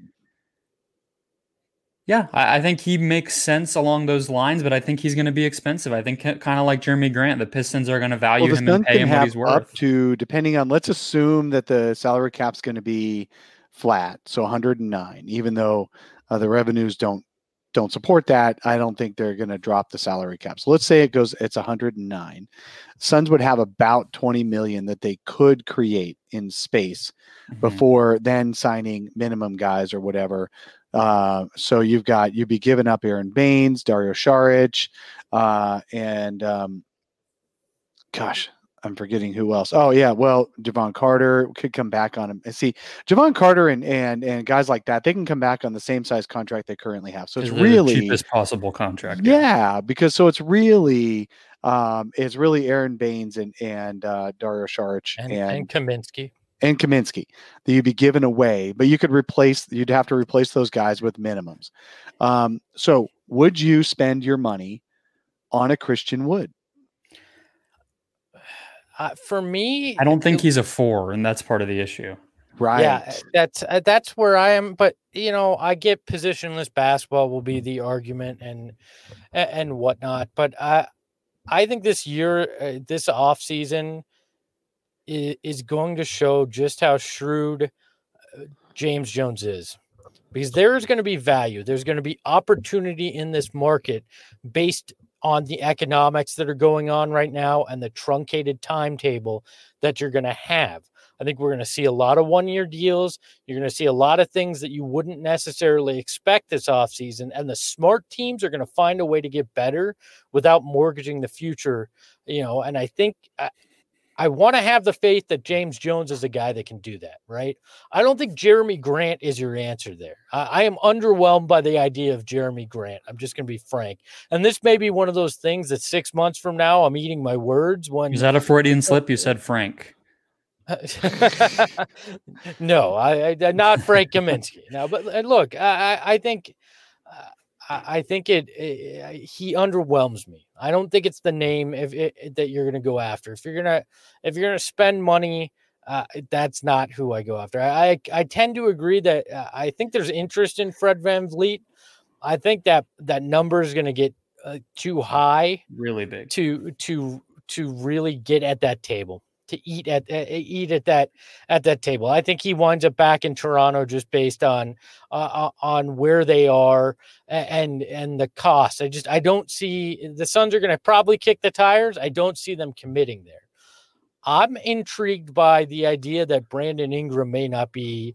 Yeah, I think he makes sense along those lines, but I think he's going to be expensive. I think kind of like Jeremy Grant, the Pistons are going to value him and pay him what he's worth. Up to, depending on, let's assume that the salary cap's going to be flat, so 109, even though the revenues don't support that. I don't think they're going to drop the salary cap. So let's say it's 109. Suns would have about 20 million that they could create in space before then signing minimum guys or whatever. So you'd be giving up Aaron Baines, Dario Saric, and gosh, I'm forgetting who else. Oh yeah, well, Javon Carter could come back on him. And see, Javon Carter and guys like that, they can come back on the same size contract they currently have. So it's really the cheapest possible contract. Yeah, because so it's really Aaron Baines and Dario Saric and Kaminsky. And Kaminsky that you'd be giving away, but you'd have to replace those guys with minimums. So would you spend your money on a Christian Wood? For me, I don't think he's a 4, and that's part of the issue. Right. Yeah, that's where I am. But I get positionless basketball will be the argument and whatnot. But I think this year, this offseason is going to show just how shrewd James Jones is, because there's going to be value. There's going to be opportunity in this market based on the economics that are going on right now and the truncated timetable that you're going to have. I think we're going to see a lot of one-year deals. You're going to see a lot of things that you wouldn't necessarily expect this offseason, and the smart teams are going to find a way to get better without mortgaging the future, and I think I want to have the faith that James Jones is a guy that can do that, right? I don't think Jeremy Grant is your answer there. I am underwhelmed by the idea of Jeremy Grant. I'm just going to be frank. And this may be one of those things that 6 months from now, I'm eating my words. Is that a Freudian slip? You said Frank. No, I not Frank Kaminsky. No, but look, I think he underwhelms me. I don't think it's the name that you're going to go after. If you're going to spend money, that's not who I go after. I tend to agree that I think there's interest in Fred VanVleet. I think that number is going to get too high, really big, to to really get at that table, to eat at that table. I think he winds up back in Toronto just based on where they are and the cost. I don't see the Suns are going to probably kick the tires. I don't see them committing there. I'm intrigued by the idea that Brandon Ingram may not be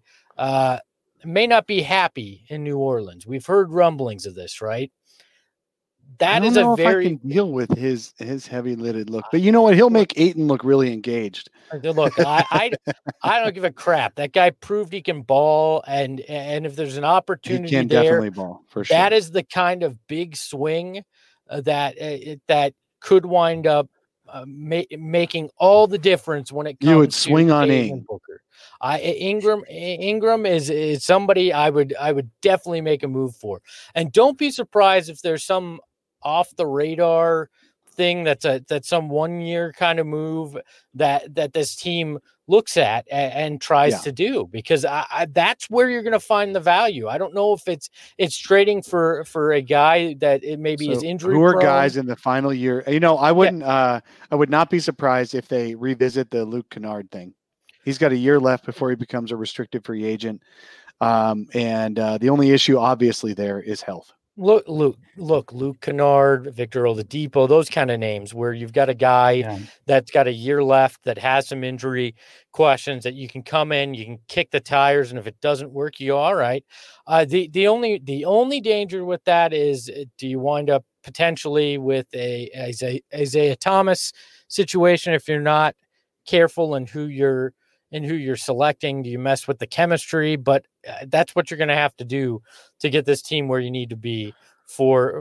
happy in New Orleans. We've heard rumblings of this, right? That is a very I can deal with his heavy-lidded look, but you know what? He'll make Ayton look really engaged. Look, I don't give a crap. That guy proved he can ball, and if there's an opportunity, he can there, definitely ball for sure. That is the kind of big swing that could wind up making all the difference when it comes. You would swing on Ayton Booker. Ingram is somebody I would definitely make a move for, and don't be surprised if there's some off the radar thing that's some 1 year kind of move that this team looks at and tries to do, because that's where you're going to find the value. I don't know if it's trading for a guy that it maybe is injury prone. Who are prone. guys in the final year? I wouldn't. I would not be surprised if they revisit the Luke Kennard thing. He's got a year left before he becomes a restricted free agent, and the only issue obviously there is health. Luke Kennard, Victor Oladipo, those kind of names where you've got a guy that's got a year left, that has some injury questions, that you can come in, you can kick the tires, and if it doesn't work, you all right. The only danger with that is, do you wind up potentially with a Isaiah Thomas situation if you're not careful in who you're selecting? Do you mess with the chemistry? But that's what you're going to have to do to get this team where you need to be for a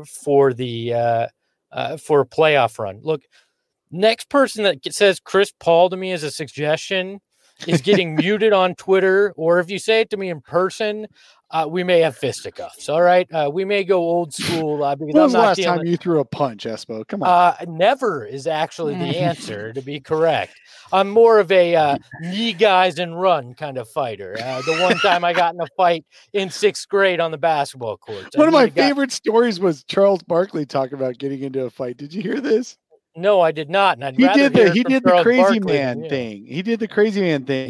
playoff run. Look, next person that says Chris Paul to me as a suggestion is getting muted on Twitter, or if you say it to me in person, we may have fisticuffs. All right, we may go old school. Because when was the last time you threw a punch, Espo? Come on. Never is actually the answer, to be correct. I'm more of a knee guys and run kind of fighter. The one time I got in a fight in 6th grade on the basketball court. One of my favorite stories was Charles Barkley talking about getting into a fight. Did you hear this? No, I did not. And he did the crazy man thing. He did the crazy man thing.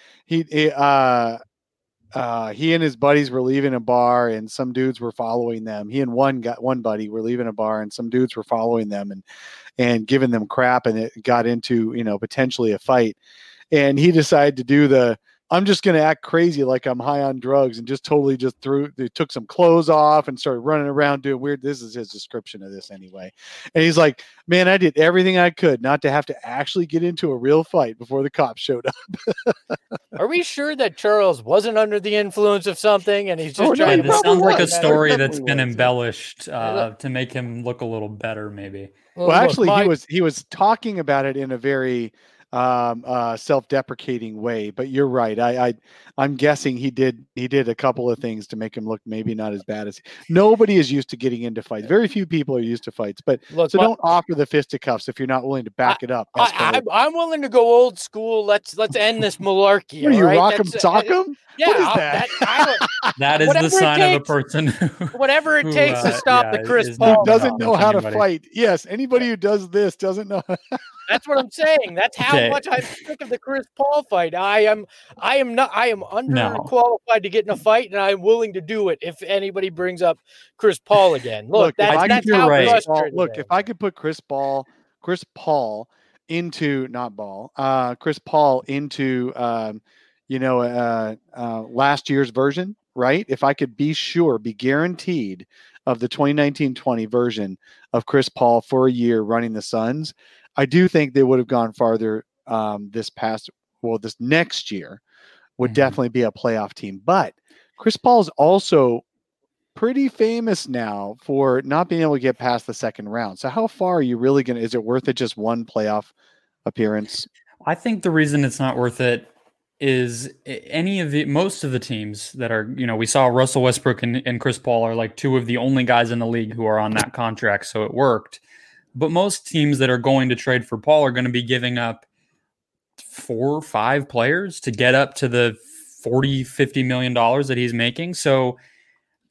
He and his buddies were leaving a bar, and some dudes were following them. He and one buddy were leaving a bar, and some dudes were following them and giving them crap, and it got into, potentially a fight. And he decided to do I'm just going to act crazy like I'm high on drugs, and they took some clothes off and started running around doing weird. This is his description of this anyway. And he's like, man, I did everything I could not to have to actually get into a real fight before the cops showed up. Are we sure that Charles wasn't under the influence of something and he's just trying to? This sounds like a story that's been embellished to make him look a little better, maybe. Well, actually, he was talking about it in a very self-deprecating way, but you're right. I'm guessing he did a couple of things to make him look maybe not as bad as nobody is used to getting into fights. Very few people are used to fights, but don't offer the fisticuffs if you're not willing to back it up. I'm willing to go old school. Let's end this malarkey. What are you, Rock'em Sock'em? Yeah, what is that? That is the sign of a person whatever it takes to stop the Chris Paul. Who doesn't know how to fight. Yes, anybody who does this doesn't know. That's what I'm saying. That's how much I'm sick of the Chris Paul fight. I am underqualified to get in a fight, and I'm willing to do it if anybody brings up Chris Paul again. Look, that's how frustrating. Look, if I could put Chris Paul into last year's version, right? If I could be guaranteed of the 2019-20 version of Chris Paul for a year running the Suns, I do think they would have gone farther this next year would definitely be a playoff team. But Chris Paul is also pretty famous now for not being able to get past the second round. So how far are you really going to, is it worth it just one playoff appearance? I think the reason it's not worth it is most of the teams that are, we saw Russell Westbrook and Chris Paul are like two of the only guys in the league who are on that contract. So it worked. But most teams that are going to trade for Paul are going to be giving up 4 or 5 players to get up to the $40-50 million that he's making. So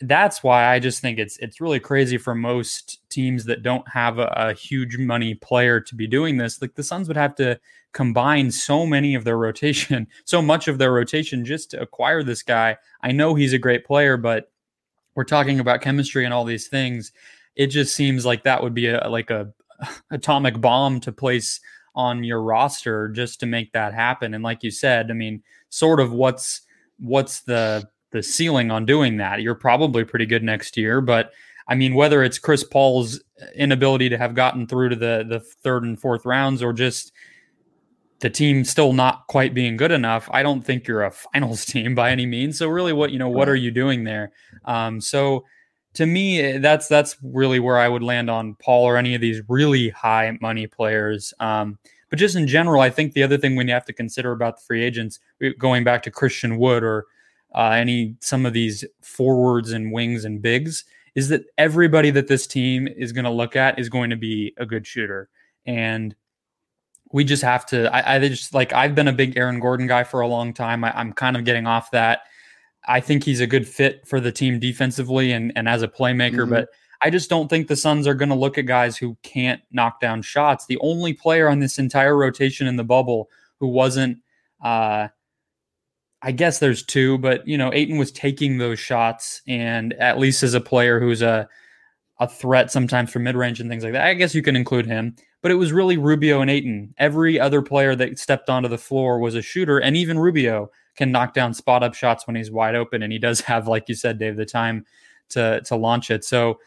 that's why I just think it's really crazy for most teams that don't have a huge money player to be doing this. Like the Suns would have to combine so much of their rotation just to acquire this guy. I know he's a great player, but we're talking about chemistry and all these things. It just seems like that would be a atomic bomb to place on your roster just to make that happen. And like you said, I mean, sort of what's the ceiling on doing that? You're probably pretty good next year, but I mean, whether it's Chris Paul's inability to have gotten through to the third and fourth rounds or just the team still not quite being good enough, I don't think you're a finals team by any means. So really what are you doing there? So to me, that's really where I would land on Paul or any of these really high money players. But just in general, I think the other thing we have to consider about the free agents, going back to Christian Wood or some of these forwards and wings and bigs, is that everybody that this team is going to look at is going to be a good shooter. And we just have to, I've been a big Aaron Gordon guy for a long time. I'm kind of getting off that. I think he's a good fit for the team defensively and as a playmaker, but I just don't think the Suns are going to look at guys who can't knock down shots. The only player on this entire rotation in the bubble who wasn't, I guess there's two, but Ayton was taking those shots, and at least as a player who's a threat sometimes from mid-range and things like that, I guess you can include him. But it was really Rubio and Ayton. Every other player that stepped onto the floor was a shooter, and even Rubio can knock down spot-up shots when he's wide open, and he does have, like you said, Dave, the time to launch it. So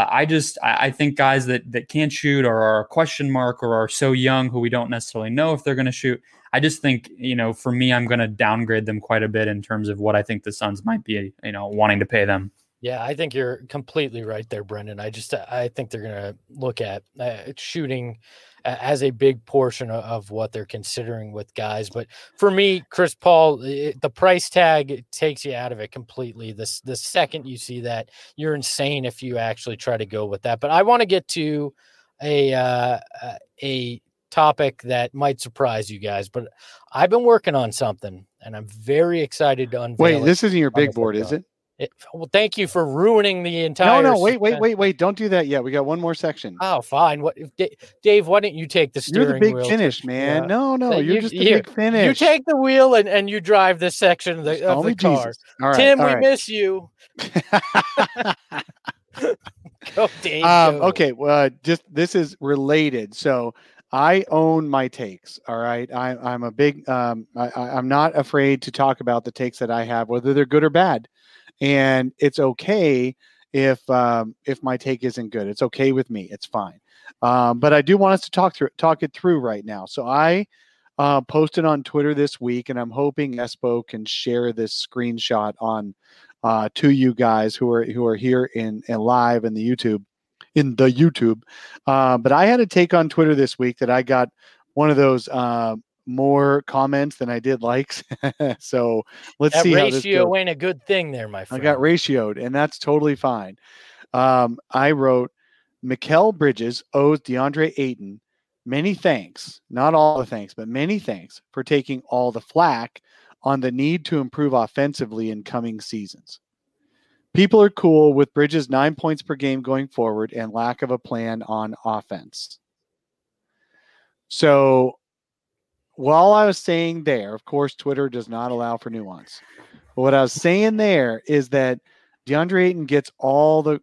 I think guys that can't shoot or are a question mark or are so young who we don't necessarily know if they're going to shoot, I just think, for me, I'm going to downgrade them quite a bit in terms of what I think the Suns might be, wanting to pay them. Yeah, I think you're completely right there, Brendan. I think they're going to look at shooting as a big portion of what they're considering with guys. But for me, Chris Paul, the price tag takes you out of it completely. The second you see that, you're insane if you actually try to go with that. But I want to get to a topic that might surprise you guys, but I've been working on something and I'm very excited to unveil. Wait, this isn't your big board, is it? Well, thank you for ruining the entire. No, wait! Don't do that yet. We got one more section. Oh, fine. What, Dave? Why don't you take the steering wheel? You're the big finish, man. Yeah. No, you're just the big finish. You take the wheel and you drive this section of the car. Jesus. All right, Tim, all we right. miss you. Go, Dave. Go. Okay. Well, this is related. So I own my takes. All right. I'm a big. I'm not afraid to talk about the takes that I have, whether they're good or bad. And it's okay if my take isn't good. It's okay with me. It's fine. But I do want us to talk it through right now. So I posted on Twitter this week, and I'm hoping Espo can share this screenshot on to you guys who are here in live in the YouTube. But I had a take on Twitter this week that I got one of those more comments than I did likes. So let's see how this goes. Ratio ain't a good thing there, my friend. I got ratioed, and that's totally fine. I wrote, Mikal Bridges owes DeAndre Ayton many thanks, not all the thanks, but many thanks for taking all the flack on the need to improve offensively in coming seasons. People are cool with Bridges' 9 points per game going forward and lack of a plan on offense. So while I was saying there, of course, Twitter does not allow for nuance. But what I was saying there is that DeAndre Ayton gets all the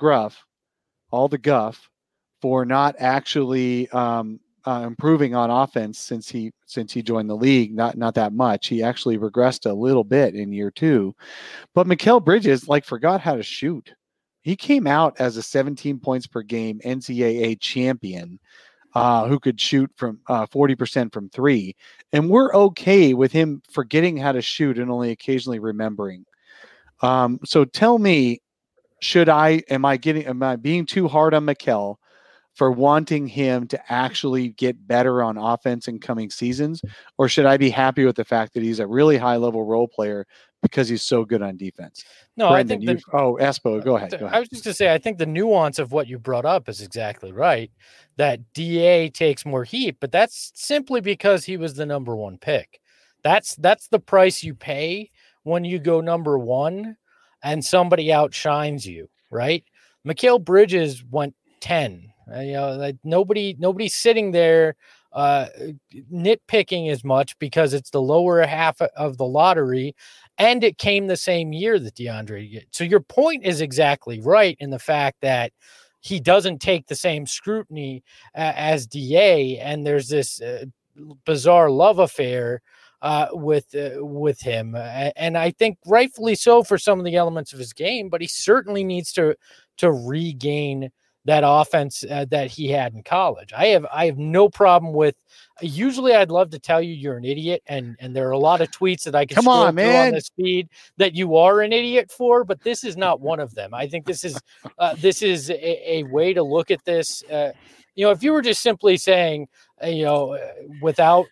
guff for not actually improving on offense since he joined the league. Not that much. He actually regressed a little bit in year 2. But Mikal Bridges forgot how to shoot. He came out as a 17 points per game NCAA champion. Who could shoot from 40% from 3. And we're okay with him forgetting how to shoot and only occasionally remembering. So tell me, am I being too hard on Mikal for wanting him to actually get better on offense in coming seasons? Or should I be happy with the fact that he's a really high level role player because he's so good on defense? No, Brendan, I think Espo, go ahead. I was just going to say, I think the nuance of what you brought up is exactly right. That DA takes more heat, but that's simply because he was the number 1 pick. That's the price you pay when you go number 1. and somebody outshines you, right? Mikal Bridges went 10. Like nobody's sitting there nitpicking as much because it's the lower half of the lottery, and it came the same year that DeAndre did. So your point is exactly right in the fact that he doesn't take the same scrutiny as DA, and there's this bizarre love affair with him, and I think rightfully so for some of the elements of his game, but he certainly needs to regain that offense that he had in college. I have no problem with. Usually, I'd love to tell you you're an idiot, and there are a lot of tweets that I can scroll through on this feed that you are an idiot for, but this is not one of them. I think this is a way to look at this. If you were just simply saying, without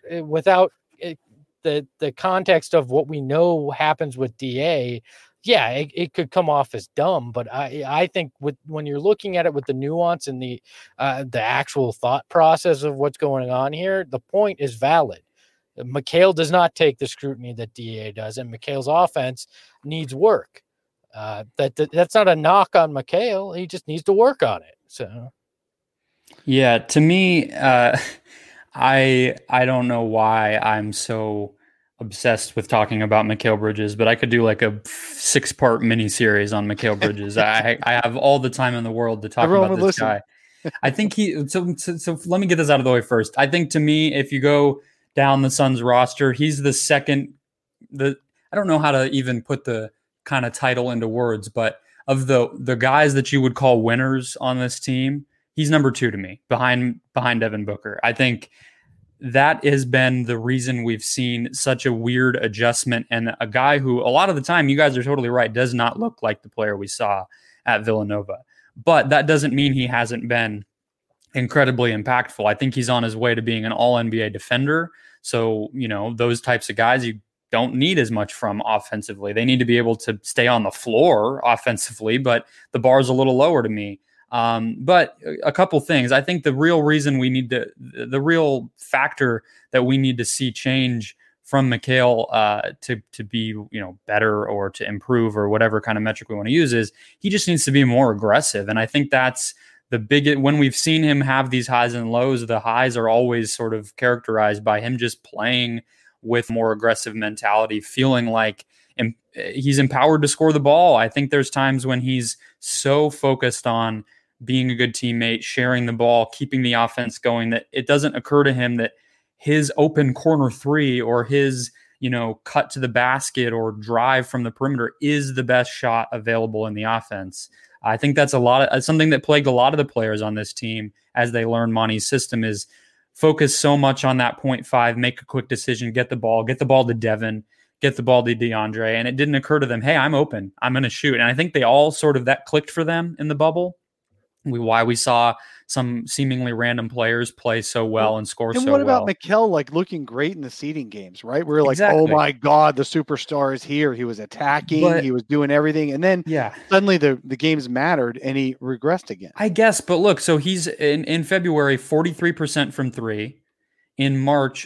the context of what we know happens with DA. Yeah, it could come off as dumb, but I think when you're looking at it with the nuance and the actual thought process of what's going on here, the point is valid. Mikal does not take the scrutiny that DA does, and Mikal's offense needs work. That's not a knock on Mikal. He just needs to work on it. So, yeah, to me, I don't know why I'm so obsessed with talking about Mikal Bridges, but I could do like a 6-part mini series on Mikal Bridges. I have all the time in the world to talk about this guy. I think so let me get this out of the way first. I think to me, if you go down the Suns roster, he's the second, I don't know how to even put the kind of title into words, but of the guys that you would call winners on this team, he's number 2 to me behind Devin Booker. I think that has been the reason we've seen such a weird adjustment, and a guy who a lot of the time, you guys are totally right, does not look like the player we saw at Villanova. But that doesn't mean he hasn't been incredibly impactful. I think he's on his way to being an all-NBA defender. So, those types of guys you don't need as much from offensively. They need to be able to stay on the floor offensively, but the bar's a little lower to me. But a couple things. I think the real reason the real factor that we need to see change from Mikal to be better or to improve or whatever kind of metric we want to use is he just needs to be more aggressive. And I think that's the biggest. When we've seen him have these highs and lows, the highs are always sort of characterized by him just playing with more aggressive mentality, feeling like he's empowered to score the ball. I think there's times when he's so focused on being a good teammate, sharing the ball, keeping the offense going, that it doesn't occur to him that his open corner 3 or his, cut to the basket or drive from the perimeter is the best shot available in the offense. I think that's something that plagued a lot of the players on this team as they learn Monty's system is focus so much on that 0.5, make a quick decision, get the ball to Devin, get the ball to DeAndre. And it didn't occur to them, hey, I'm open, I'm going to shoot. And I think they all sort of that clicked for them in the bubble. Why we saw some seemingly random players play so well and score so well. And what about Mikal looking great in the seeding games, right? We're like, oh my God, the superstar is here. He was attacking, he was doing everything. And then suddenly the games mattered and he regressed again. I guess, but look, so he's in February, 43% from 3. In March,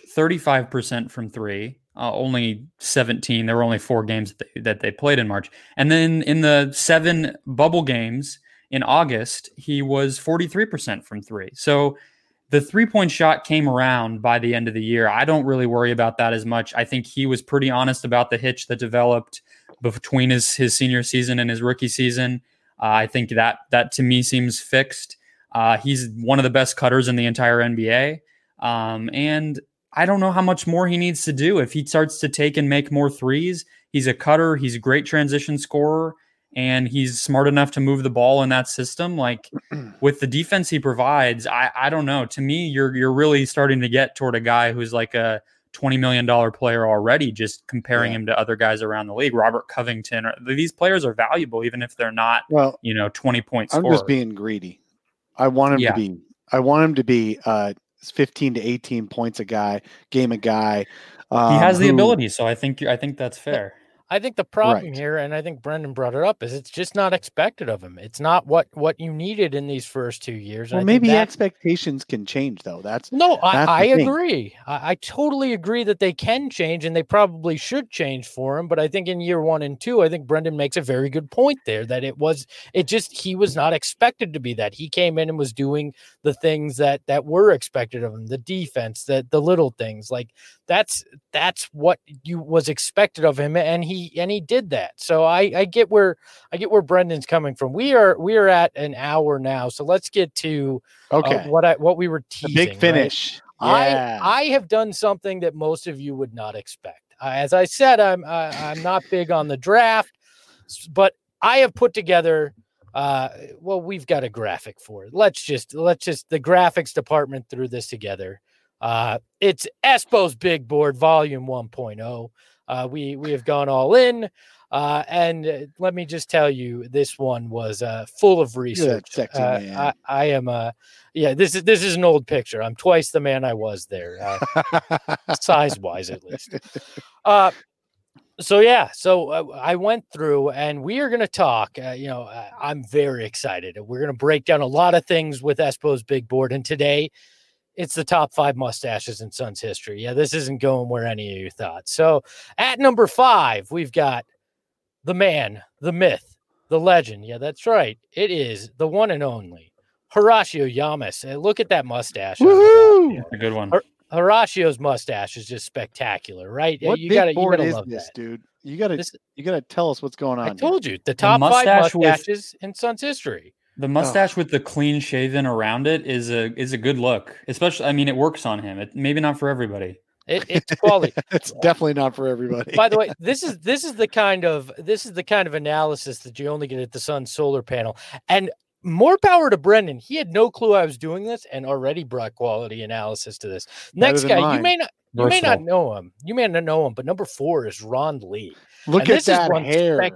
35% from 3. Only 17. There were only 4 games that they played in March. And then in the 7 bubble games, in August, he was 43% from 3. So the 3-point shot came around by the end of the year. I don't really worry about that as much. I think he was pretty honest about the hitch that developed between his senior season and his rookie season. I think that to me seems fixed. He's one of the best cutters in the entire NBA. And I don't know how much more he needs to do. If he starts to take and make more threes, he's a cutter. He's a great transition scorer. And he's smart enough to move the ball in that system. Like with the defense he provides, I don't know. To me, you're really starting to get toward a guy who's like a $20 million player already, just comparing him to other guys around the league. Robert Covington. These players are valuable, even if they're not, 20-point scorers. I'm just being greedy. I want him to be 15 to 18 points a game a guy. He has the ability, so I think that's fair. I think the problem Right. here, and I think Brendan brought it up, is it's just not expected of him. It's not what you needed in these first 2 years. Well, And I think maybe expectations can change, though. That's I the thing. agree. I totally agree that they can change, and they probably should change for him. But I think in year 1 and 2, I think Brendan makes a very good point there that he was not expected to be that. He came in and was doing the things that were expected of him, the defense, the little things. Like that's what was expected of him, and he did that. So I get where Brendan's coming from. We are at an hour now, so let's get to Okay. what we were The teasing. big finish. Right? Yeah. I have done something that most of you would not expect. As I said, I'm not big on the draft, but I have put together. We've got a graphic for it. Let's just the graphics department threw this together. It's Espo's Big Board Volume 1.0. We have gone all in. And let me just tell you, this one was full of research. Sexy man. I am this is an old picture. I'm twice the man I was there, size wise at least. So I went through, and we are going to talk. I'm very excited. We're going to break down a lot of things with Espo's Big Board, and today it's the top 5 mustaches in Suns history. Yeah, this isn't going where any of you thought. So at number 5, we've got the man, the myth, the legend. Yeah, that's right. It is the one and only Horacio Llamas. Look at that mustache. Woohoo! A good one. Horacio's mustache is just spectacular, right? What You big gotta board is love this, that. dude? You gotta tell us what's going on. I told you the top 5 mustache mustaches in Suns history. The mustache with the clean shaven around it is a good look. Especially, I mean, it works on him. Maybe not for everybody. It's quality. It's definitely not for everybody. By the way, this is the kind of analysis that you only get at the Sun solar panel. And more power to Brendan. He had no clue I was doing this and already brought quality analysis to this. Next guy, you may not know him. You may not know him, but number 4 is Ron Lee. Look at that hair.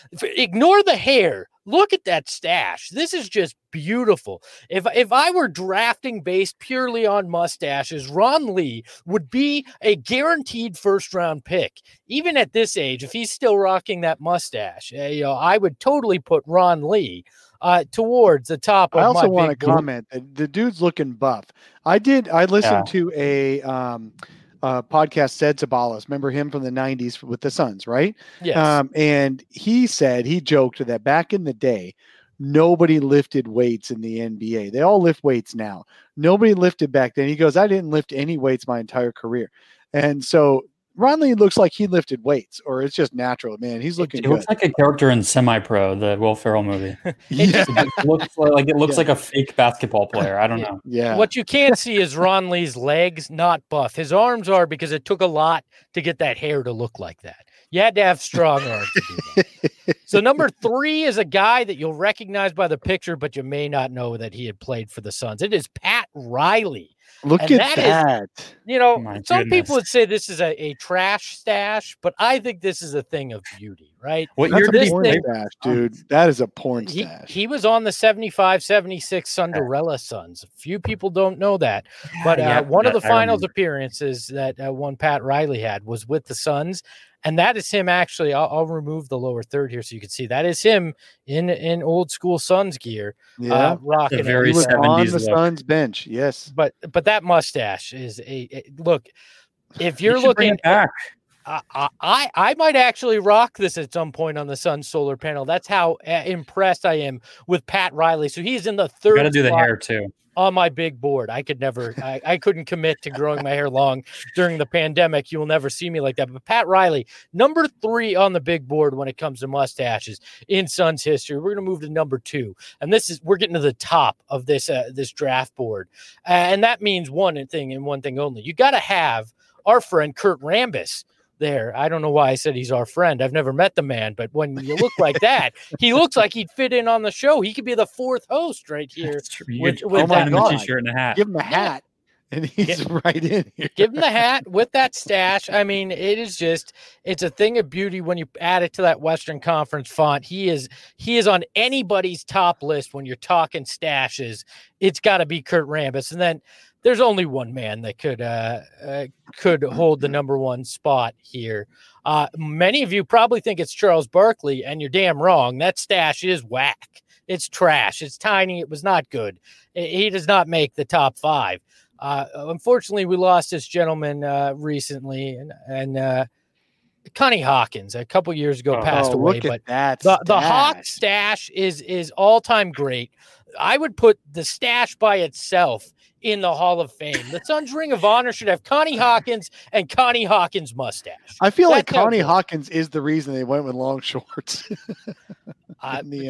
Ignore the hair. Look at that stash. This is just beautiful. If I were drafting based purely on mustaches, Ron Lee would be a guaranteed first-round pick. Even at this age, if he's still rocking that mustache, I would totally put Ron Lee towards the top of my big board. I also want to comment that the dude's looking buff. I listened to a podcast, Sid Sabalas. Remember him from the 90s with the Suns, right? Yes. And he joked that back in the day, nobody lifted weights in the NBA. They all lift weights now. Nobody lifted back then. He goes, I didn't lift any weights my entire career. And so Ron Lee looks like he lifted weights, or it's just natural, man. He's looking good. He looks like a character in Semi-Pro, the Will Ferrell movie. It looks like a fake basketball player. I don't know. Yeah. What you can't see is Ron Lee's legs, not buff. His arms are, because it took a lot to get that hair to look like that. You had to have strong arms to do that. So number 3 is a guy that you'll recognize by the picture, but you may not know that he had played for the Suns. It is Pat Riley. Look at that. Some people would say this is a trash stash, but I think this is a thing of beauty, right? That's a porn stash, dude. That is a porn stash. He was on the 75-76 Cinderella Suns. Few people don't know that. But one of the finals appearances that one Pat Riley had was with the Suns. And that is him actually. I'll remove the lower third here so you can see. That is him in old school Suns gear. Yeah, rocking. Very he was 70s on the look. Suns bench. Yes, but that mustache is a look. If you're looking back, I might actually rock this at some point on the Sun solar panel. That's how impressed I am with Pat Riley. So he's in the third. Got to do the hair too. On my big board. I couldn't commit to growing my hair long during the pandemic. You will never see me like that. But Pat Riley, number 3 on the big board when it comes to mustaches in Suns history. We're going to move to number 2. And we're getting to the top of this draft board. And that means one thing and one thing only. You got to have our friend Kurt Rambis there. I don't know why I said he's our friend. I've never met the man, but when you look like that, he looks like he'd fit in on the show. He could be the 4th host right here. With a t-shirt and a hat. Give him a hat, and he's right in here. Give him the hat with that stash. I mean, it's a thing of beauty when you add it to that Western Conference font. He is on anybody's top list when you're talking stashes. It's got to be Kurt Rambis. And then there's only one man that could hold the number one spot here. Many of you probably think it's Charles Barkley, and you're damn wrong. That stash is whack. It's trash. It's tiny. It was not good. He does not make the top 5. Unfortunately, we lost this gentleman recently, and Connie Hawkins a couple years ago passed away. Look but at the Hawk stash is all time great. I would put the stash by itself in the Hall of Fame. The Suns Ring of Honor should have Connie Hawkins and Connie Hawkins mustache. I feel like Connie Hawkins is the reason they went with long shorts. In the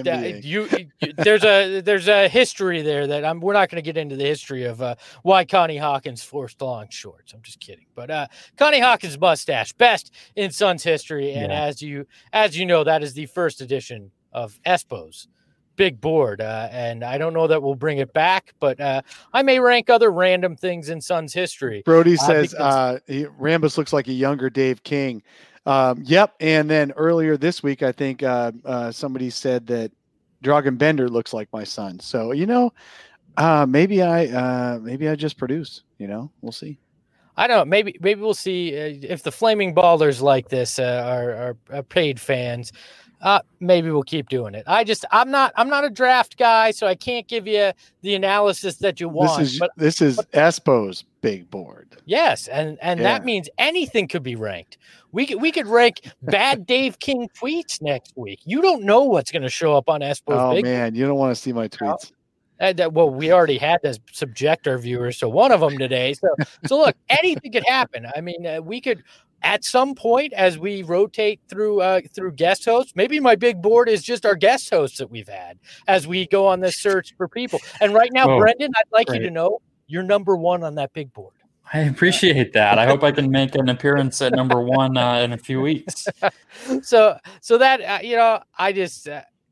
NBA. There's a history there that we're not going to get into the history of why Connie Hawkins forced long shorts. I'm just kidding. But Connie Hawkins mustache, best in Suns history. And as you know, that is the first edition of Espo's big board. And I don't know that we'll bring it back, but I may rank other random things in Suns history. Brody says Rambus looks like a younger Dave King. Yep. And then earlier this week, I think somebody said that Dragan Bender looks like my son. So, maybe I just produce, we'll see. I don't know. Maybe we'll see if the Flaming Ballers like this are paid fans. Maybe we'll keep doing it. I'm not a draft guy, so I can't give you the analysis that you want. This is Espo's big board. Yes, and that means anything could be ranked. We could rank bad Dave King tweets next week. You don't know what's going to show up on Espo's big board. Man, you don't want to see my tweets. Well, we already had to subject our viewers to one of them today. So look, anything could happen. I mean, we could. At some point, as we rotate through guest hosts, maybe my big board is just our guest hosts that we've had as we go on this search for people. And right now, Brendan, I'd like you to know you're number 1 on that big board. I appreciate that. I hope I can make an appearance at number 1 in a few weeks. So that I just.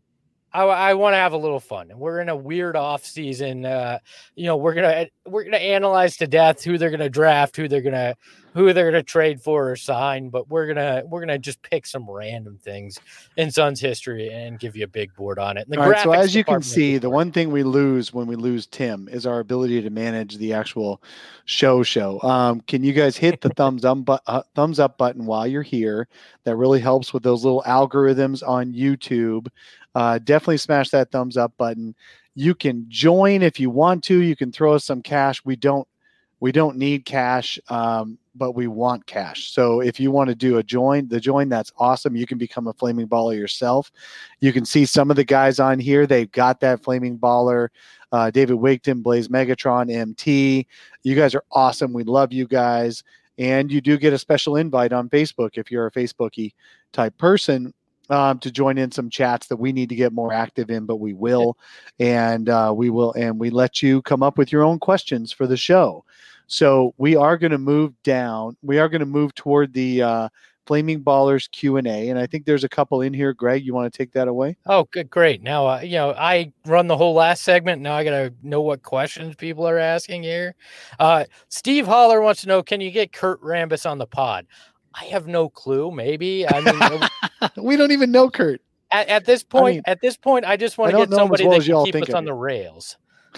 I want to have a little fun, and we're in a weird off season. We're gonna analyze to death who they're gonna draft, who they're gonna trade for or sign. But we're gonna just pick some random things in Suns history and give you a big board on it. All right, so as you can see, the one thing we lose when we lose Tim is our ability to manage the actual show. Can you guys hit the thumbs up button while you're here? That really helps with those little algorithms on YouTube. Definitely smash that thumbs up button. You can join if you want to. You can throw us some cash. We don't need cash, but we want cash. So if you want to do the join, that's awesome. You can become a Flaming Baller yourself. You can see some of the guys on here. They've got that Flaming Baller. David Wigton, Blaze Megatron, MT. You guys are awesome. We love you guys. And you do get a special invite on Facebook if you're a Facebooky type person. To join in some chats that we need to get more active in, but we will, and we let you come up with your own questions for the show. So we are going to move down. We are going to move toward the Flaming Ballers Q&A, and I think there's a couple in here. Greg, you want to take that away? Oh, good, great. Now, I run the whole last segment. Now I got to know what questions people are asking here. Steve Holler wants to know, can you get Kurt Rambis on the pod? I have no clue. Maybe. I mean, we don't even know Kurt. At this point, I just want to get somebody that can keep us on the rails.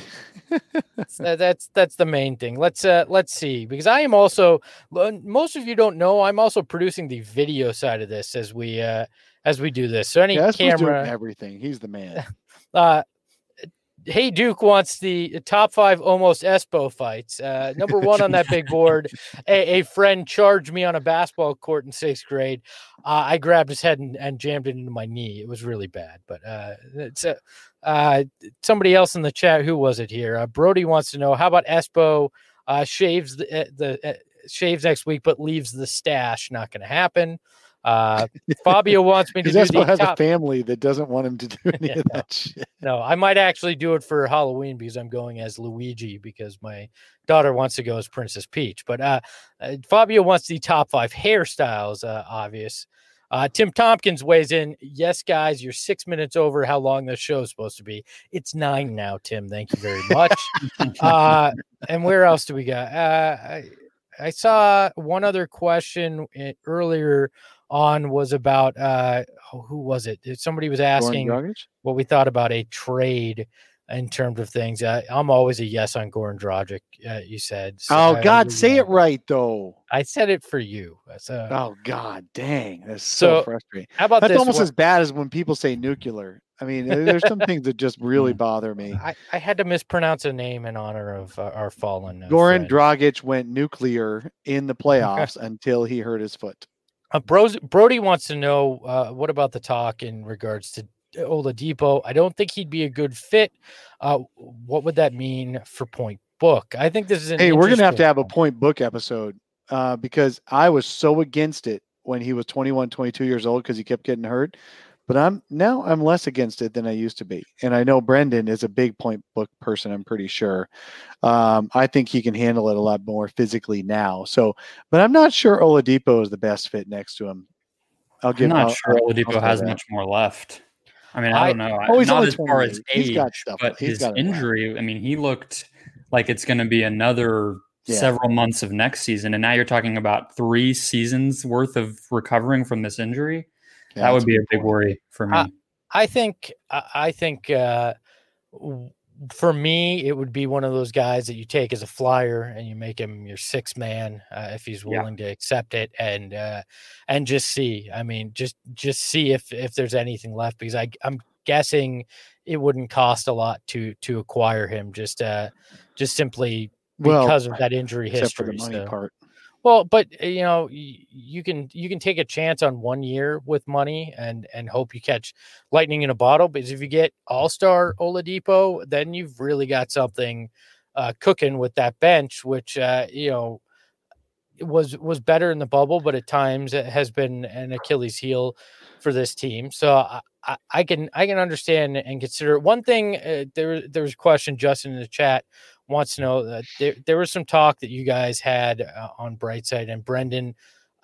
That's the main thing. Let's see, because I am also, most of you don't know, I'm also producing the video side of this as we do this. So camera, everything. He's the man. Hey Duke wants the top 5 almost Espo fights. Number 1 on that big board. A friend charged me on a basketball court in 6th grade. I grabbed his head and jammed it into my knee. It was really bad. But somebody else in the chat, who was it here? Brody wants to know, how about Espo shaves shaves next week but leaves the stash? Not going to happen. Fabio wants me to do Espo has a family that doesn't want him to do any of that shit. No, I might actually do it for Halloween because I'm going as Luigi because my daughter wants to go as Princess Peach. But Fabio wants the top 5 hairstyles, obvious. Tim Tompkins weighs in. Yes, guys, you're 6 minutes over how long the show is supposed to be. It's 9 now, Tim. Thank you very much. And where else do we got? I saw one other question earlier on was about who was it? Somebody was asking what we thought about a trade in terms of things. I'm always a yes on Goran Dragic. You said. So Oh God, say it right though. I said it for you. So, oh God, dang, that's so frustrating. How about that's this almost one? as bad as when people say nuclear. I mean, there's some things that just really bother me. I had to mispronounce a name in honor of our fallen Goran friend. Dragic went nuclear in the playoffs until he hurt his foot. Brody wants to know what about the talk in regards to Oladipo. I don't think he'd be a good fit. What would that mean for Point Book? I think this is Hey, we're gonna have to have a Point Book episode because I was so against it when he was 21, 22 years old because he kept getting hurt. But I'm less against it than I used to be. And I know Brendan is a big Point Book person, I'm pretty sure. I think he can handle it a lot more physically now. So, but I'm not sure Oladipo is the best fit next to him. I'm not sure Oladipo has much more left. I mean, I don't know. He's not only as far as age, he's got stuff, but his injury, I mean, he looked like it's going to be another several months of next season. And now you're talking about 3 seasons worth of recovering from this injury. Yeah, that would be a big worry for me. I think for me, it would be one of those guys that you take as a flyer and you make him your 6th man if he's willing to accept it and just see. I mean, just see if there's anything left, because I'm guessing it wouldn't cost a lot to acquire him just simply because of that injury history. For the money part. Well, but you can take a chance on 1 year with money and hope you catch lightning in a bottle. Because if you get all-star Oladipo, then you've really got something cooking with that bench, which was better in the bubble, but at times it has been an Achilles heel for this team. So I can understand and consider one thing. There was a question, Justin, in the chat wants to know that there was some talk that you guys had on Brightside, and Brendan,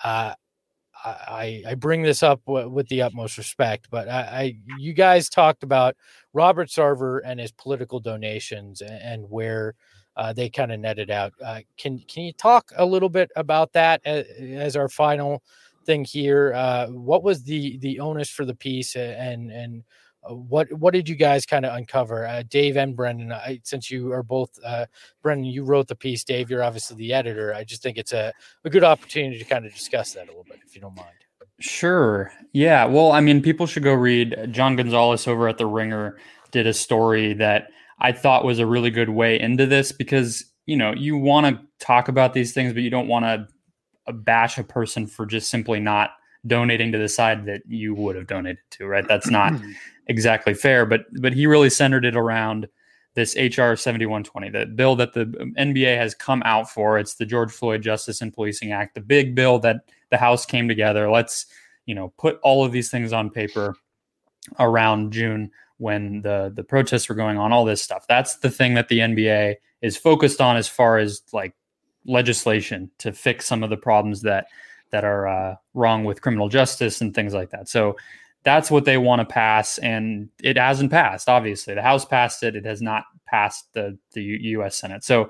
I bring this up with the utmost respect, but you guys talked about Robert Sarver and his political donations and where they kind of netted out. Can you talk a little bit about that as our final thing here? What was the onus for the piece, and what did you guys kind of uncover? Dave and Brendan, since you are both, Brendan, you wrote the piece. Dave, you're obviously the editor. I just think it's a good opportunity to kind of discuss that a little bit, if you don't mind. Sure. Yeah. Well, I mean, people should go read. John Gonzalez over at The Ringer did a story that I thought was a really good way into this, because, you want to talk about these things, but you don't want to bash a person for just simply not donating to the side that you would have donated to, right? That's not exactly fair, but he really centered it around this HR 7120, the bill that the NBA has come out for. It's the George Floyd Justice and Policing Act, the big bill that the House came together. Let's, put all of these things on paper around June when the protests were going on, all this stuff. That's the thing that the NBA is focused on as far as like legislation to fix some of the problems that are wrong with criminal justice and things like that. So that's what they want to pass, and it hasn't passed. Obviously, the House passed it; it has not passed the U.S. Senate. So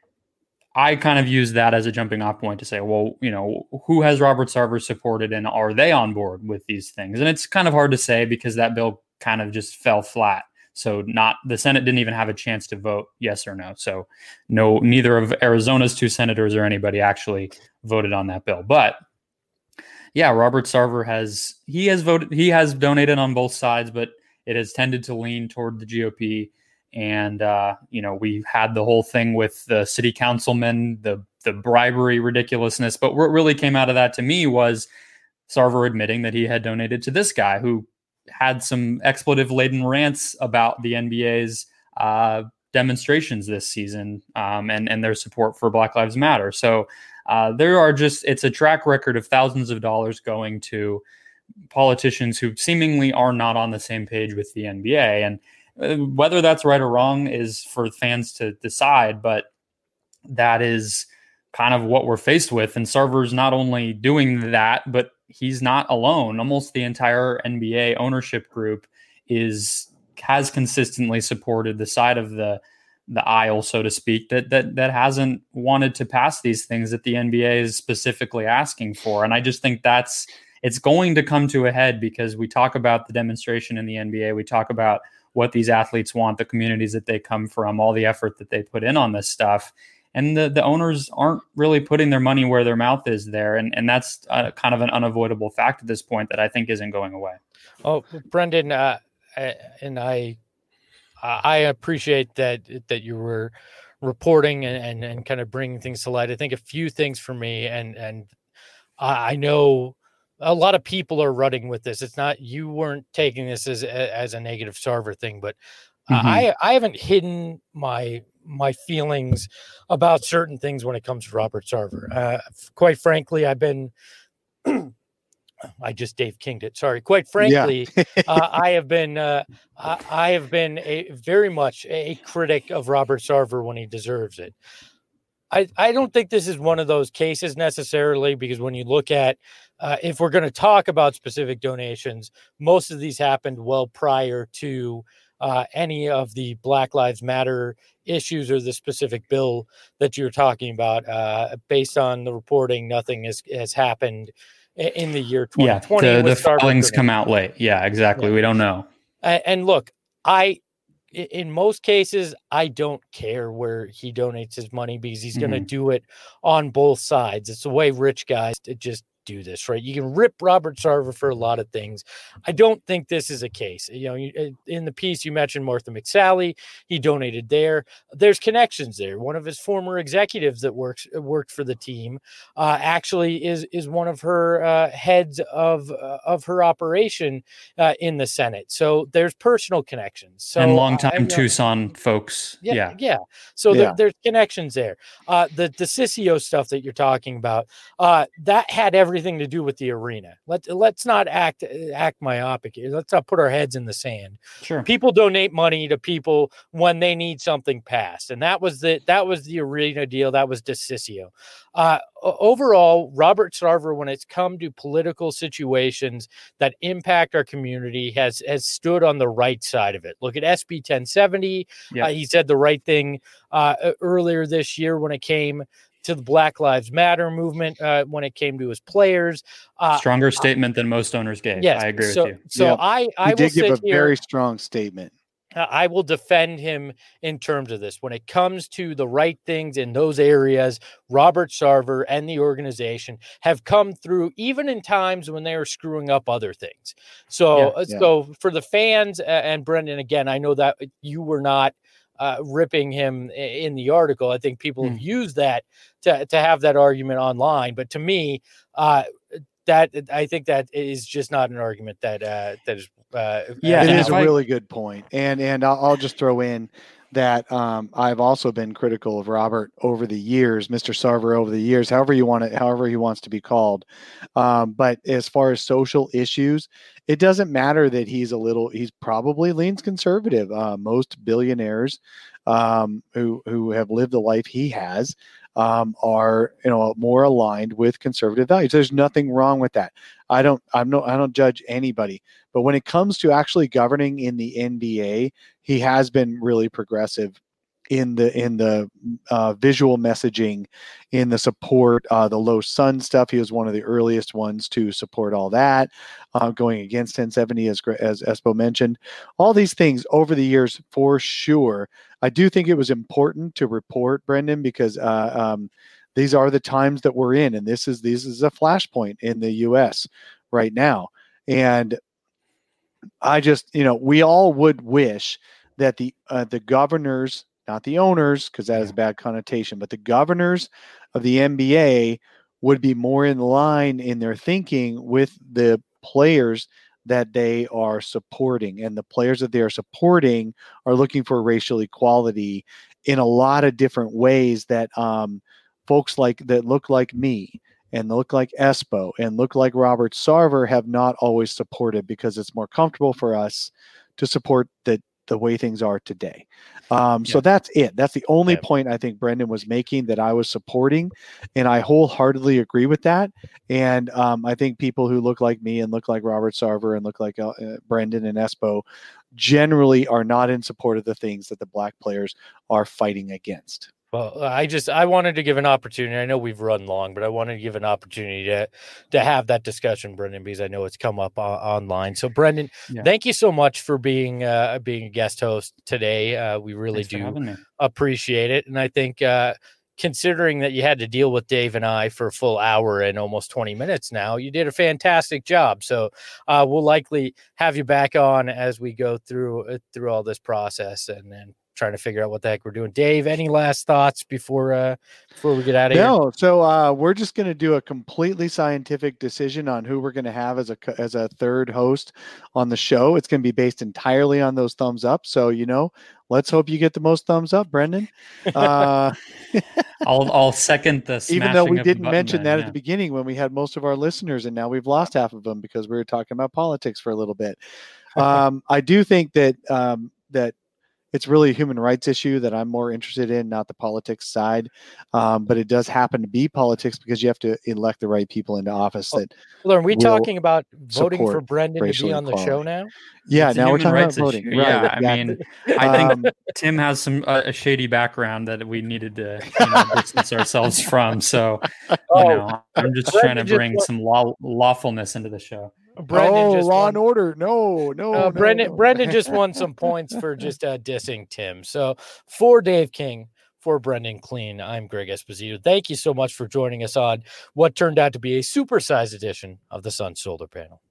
I kind of use that as a jumping off point to say, well, who has Robert Sarver supported, and are they on board with these things? And it's kind of hard to say because that bill kind of just fell flat. So the Senate didn't even have a chance to vote yes or no. So neither of Arizona's 2 senators or anybody actually voted on that bill. But yeah, Robert Sarver has voted. He has donated on both sides, but it has tended to lean toward the GOP. And we had the whole thing with the city councilmen, the bribery ridiculousness. But what really came out of that to me was Sarver admitting that he had donated to this guy who had some expletive-laden rants about the NBA's demonstrations this season and their support for Black Lives Matter. So it's a track record of thousands of dollars going to politicians who seemingly are not on the same page with the NBA. And whether that's right or wrong is for fans to decide, but that is kind of what we're faced with. And Sarver's not only doing that, but he's not alone. Almost the entire NBA ownership group has consistently supported the side of the aisle, so to speak, that hasn't wanted to pass these things that the NBA is specifically asking for. And I just think it's going to come to a head, because we talk about the demonstration in the NBA. We talk about what these athletes want, the communities that they come from, all the effort that they put in on this stuff. And the owners aren't really putting their money where their mouth is there. And that's kind of an unavoidable fact at this point that I think isn't going away. Oh, Brendan, and I appreciate that you were reporting and kind of bringing things to light. I think a few things for me, and I know a lot of people are running with this. It's not, you weren't taking this as a negative Sarver thing, but I haven't hidden my feelings about certain things when it comes to Robert Sarver. Quite frankly, I've been I just Dave King'd it. Sorry. Quite frankly, I have been very much a critic of Robert Sarver when he deserves it. I don't think this is one of those cases necessarily, because when you look at if we're going to talk about specific donations, most of these happened well prior to any of the Black Lives Matter issues or the specific bill that you're talking about. Based on the reporting, nothing has happened in the year 2020. Yeah, the filings come out late. Yeah, exactly. Yeah. We don't know. And look, in most cases, I don't care where he donates his money, because he's going to do it on both sides. It's the way rich guys just do this, right? You can rip Robert Sarver for a lot of things. I don't think this is a case. In the piece you mentioned Martha McSally, he donated there. There's connections there. One of his former executives that worked for the team actually is one of her heads of her operation in the Senate. So there's personal connections. So and longtime Tucson folks. Yeah. So there's connections there. The DeCiccio stuff that you're talking about, that had everything to do with the arena. Let's not act myopic here. Let's not put our heads in the sand. Sure. People donate money to people when they need something passed, and that was the arena deal. That was DeCiccio. Overall, Robert Sarver, when it's come to political situations that impact our community, has stood on the right side of it. Look at SB 1070. Yep. He said the right thing earlier this year when it came to the Black Lives Matter movement, when it came to his players. Stronger statement than most owners gave. Yes, I agree with you. So I did give a very strong statement. I will defend him in terms of this. When it comes to the right things in those areas, Robert Sarver and the organization have come through, even in times when they are screwing up other things. So for the fans, and Brendan, again, I know that you were not ripping him in the article. I think people have used that to have that argument online. But to me, that I think that is just not an argument that is. It is a really good point. And I'll just throw in that I've also been critical of Robert over the years, Mr. Sarver over the years, however he wants to be called. But as far as social issues, it doesn't matter that he's probably leans conservative. Most billionaires who have lived the life he has are more aligned with conservative values. There's nothing wrong with that. I don't judge anybody, but when it comes to actually governing in the NBA, he has been really progressive in the visual messaging, in the support, the low sun stuff. He was one of the earliest ones to support all that, going against 1070, as Espo mentioned. All these things over the years, for sure. I do think it was important to report, Brendan, because these are the times that we're in, and this is a flashpoint in the U.S. right now. And I just, we all would wish that the governors, not the owners, because that has a bad connotation, but the governors of the NBA would be more in line in their thinking with the players that they are supporting. And the players that they are supporting are looking for racial equality in a lot of different ways that folks that look like me and look like Espo and look like Robert Sarver have not always supported, because it's more comfortable for us to support the way things are today. So that's it. That's the only point I think Brendan was making that I was supporting. And I wholeheartedly agree with that. And I think people who look like me and look like Robert Sarver and look like Brendan and Espo generally are not in support of the things that the black players are fighting against. Well, I wanted to give an opportunity. I know we've run long, but I wanted to give an opportunity to have that discussion, Brendan, because I know it's come up online. So, Brendan, thank you so much for being a guest host today. We really do appreciate it, and I think considering that you had to deal with Dave and I for a full hour and almost 20 minutes now, you did a fantastic job. So, we'll likely have you back on as we go through all this process, and then trying to figure out what the heck we're doing. Dave, any last thoughts before we get out of here? No. So we're just going to do a completely scientific decision on who we're going to have as a third host on the show. It's going to be based entirely on those thumbs up. So, let's hope you get the most thumbs up, Brendan. I'll second this. Even though we didn't mention that at the beginning when we had most of our listeners, and now we've lost half of them because we were talking about politics for a little bit. I do think that that it's really a human rights issue that I'm more interested in, not the politics side. But it does happen to be politics because you have to elect the right people into office. Are we talking about voting for Brendan to be on the show now? Yeah, now we're talking about voting. Right, yeah, exactly. I mean, I think Tim has a shady background that we needed to distance ourselves from. So, I'm just trying to bring some lawfulness into the show. Law and Order. No. Brendan just won some points for just dissing Tim. So for Dave King, for Brendan Clean, I'm Greg Esposito. Thank you so much for joining us on what turned out to be a supersized edition of the Sun Solar Panel.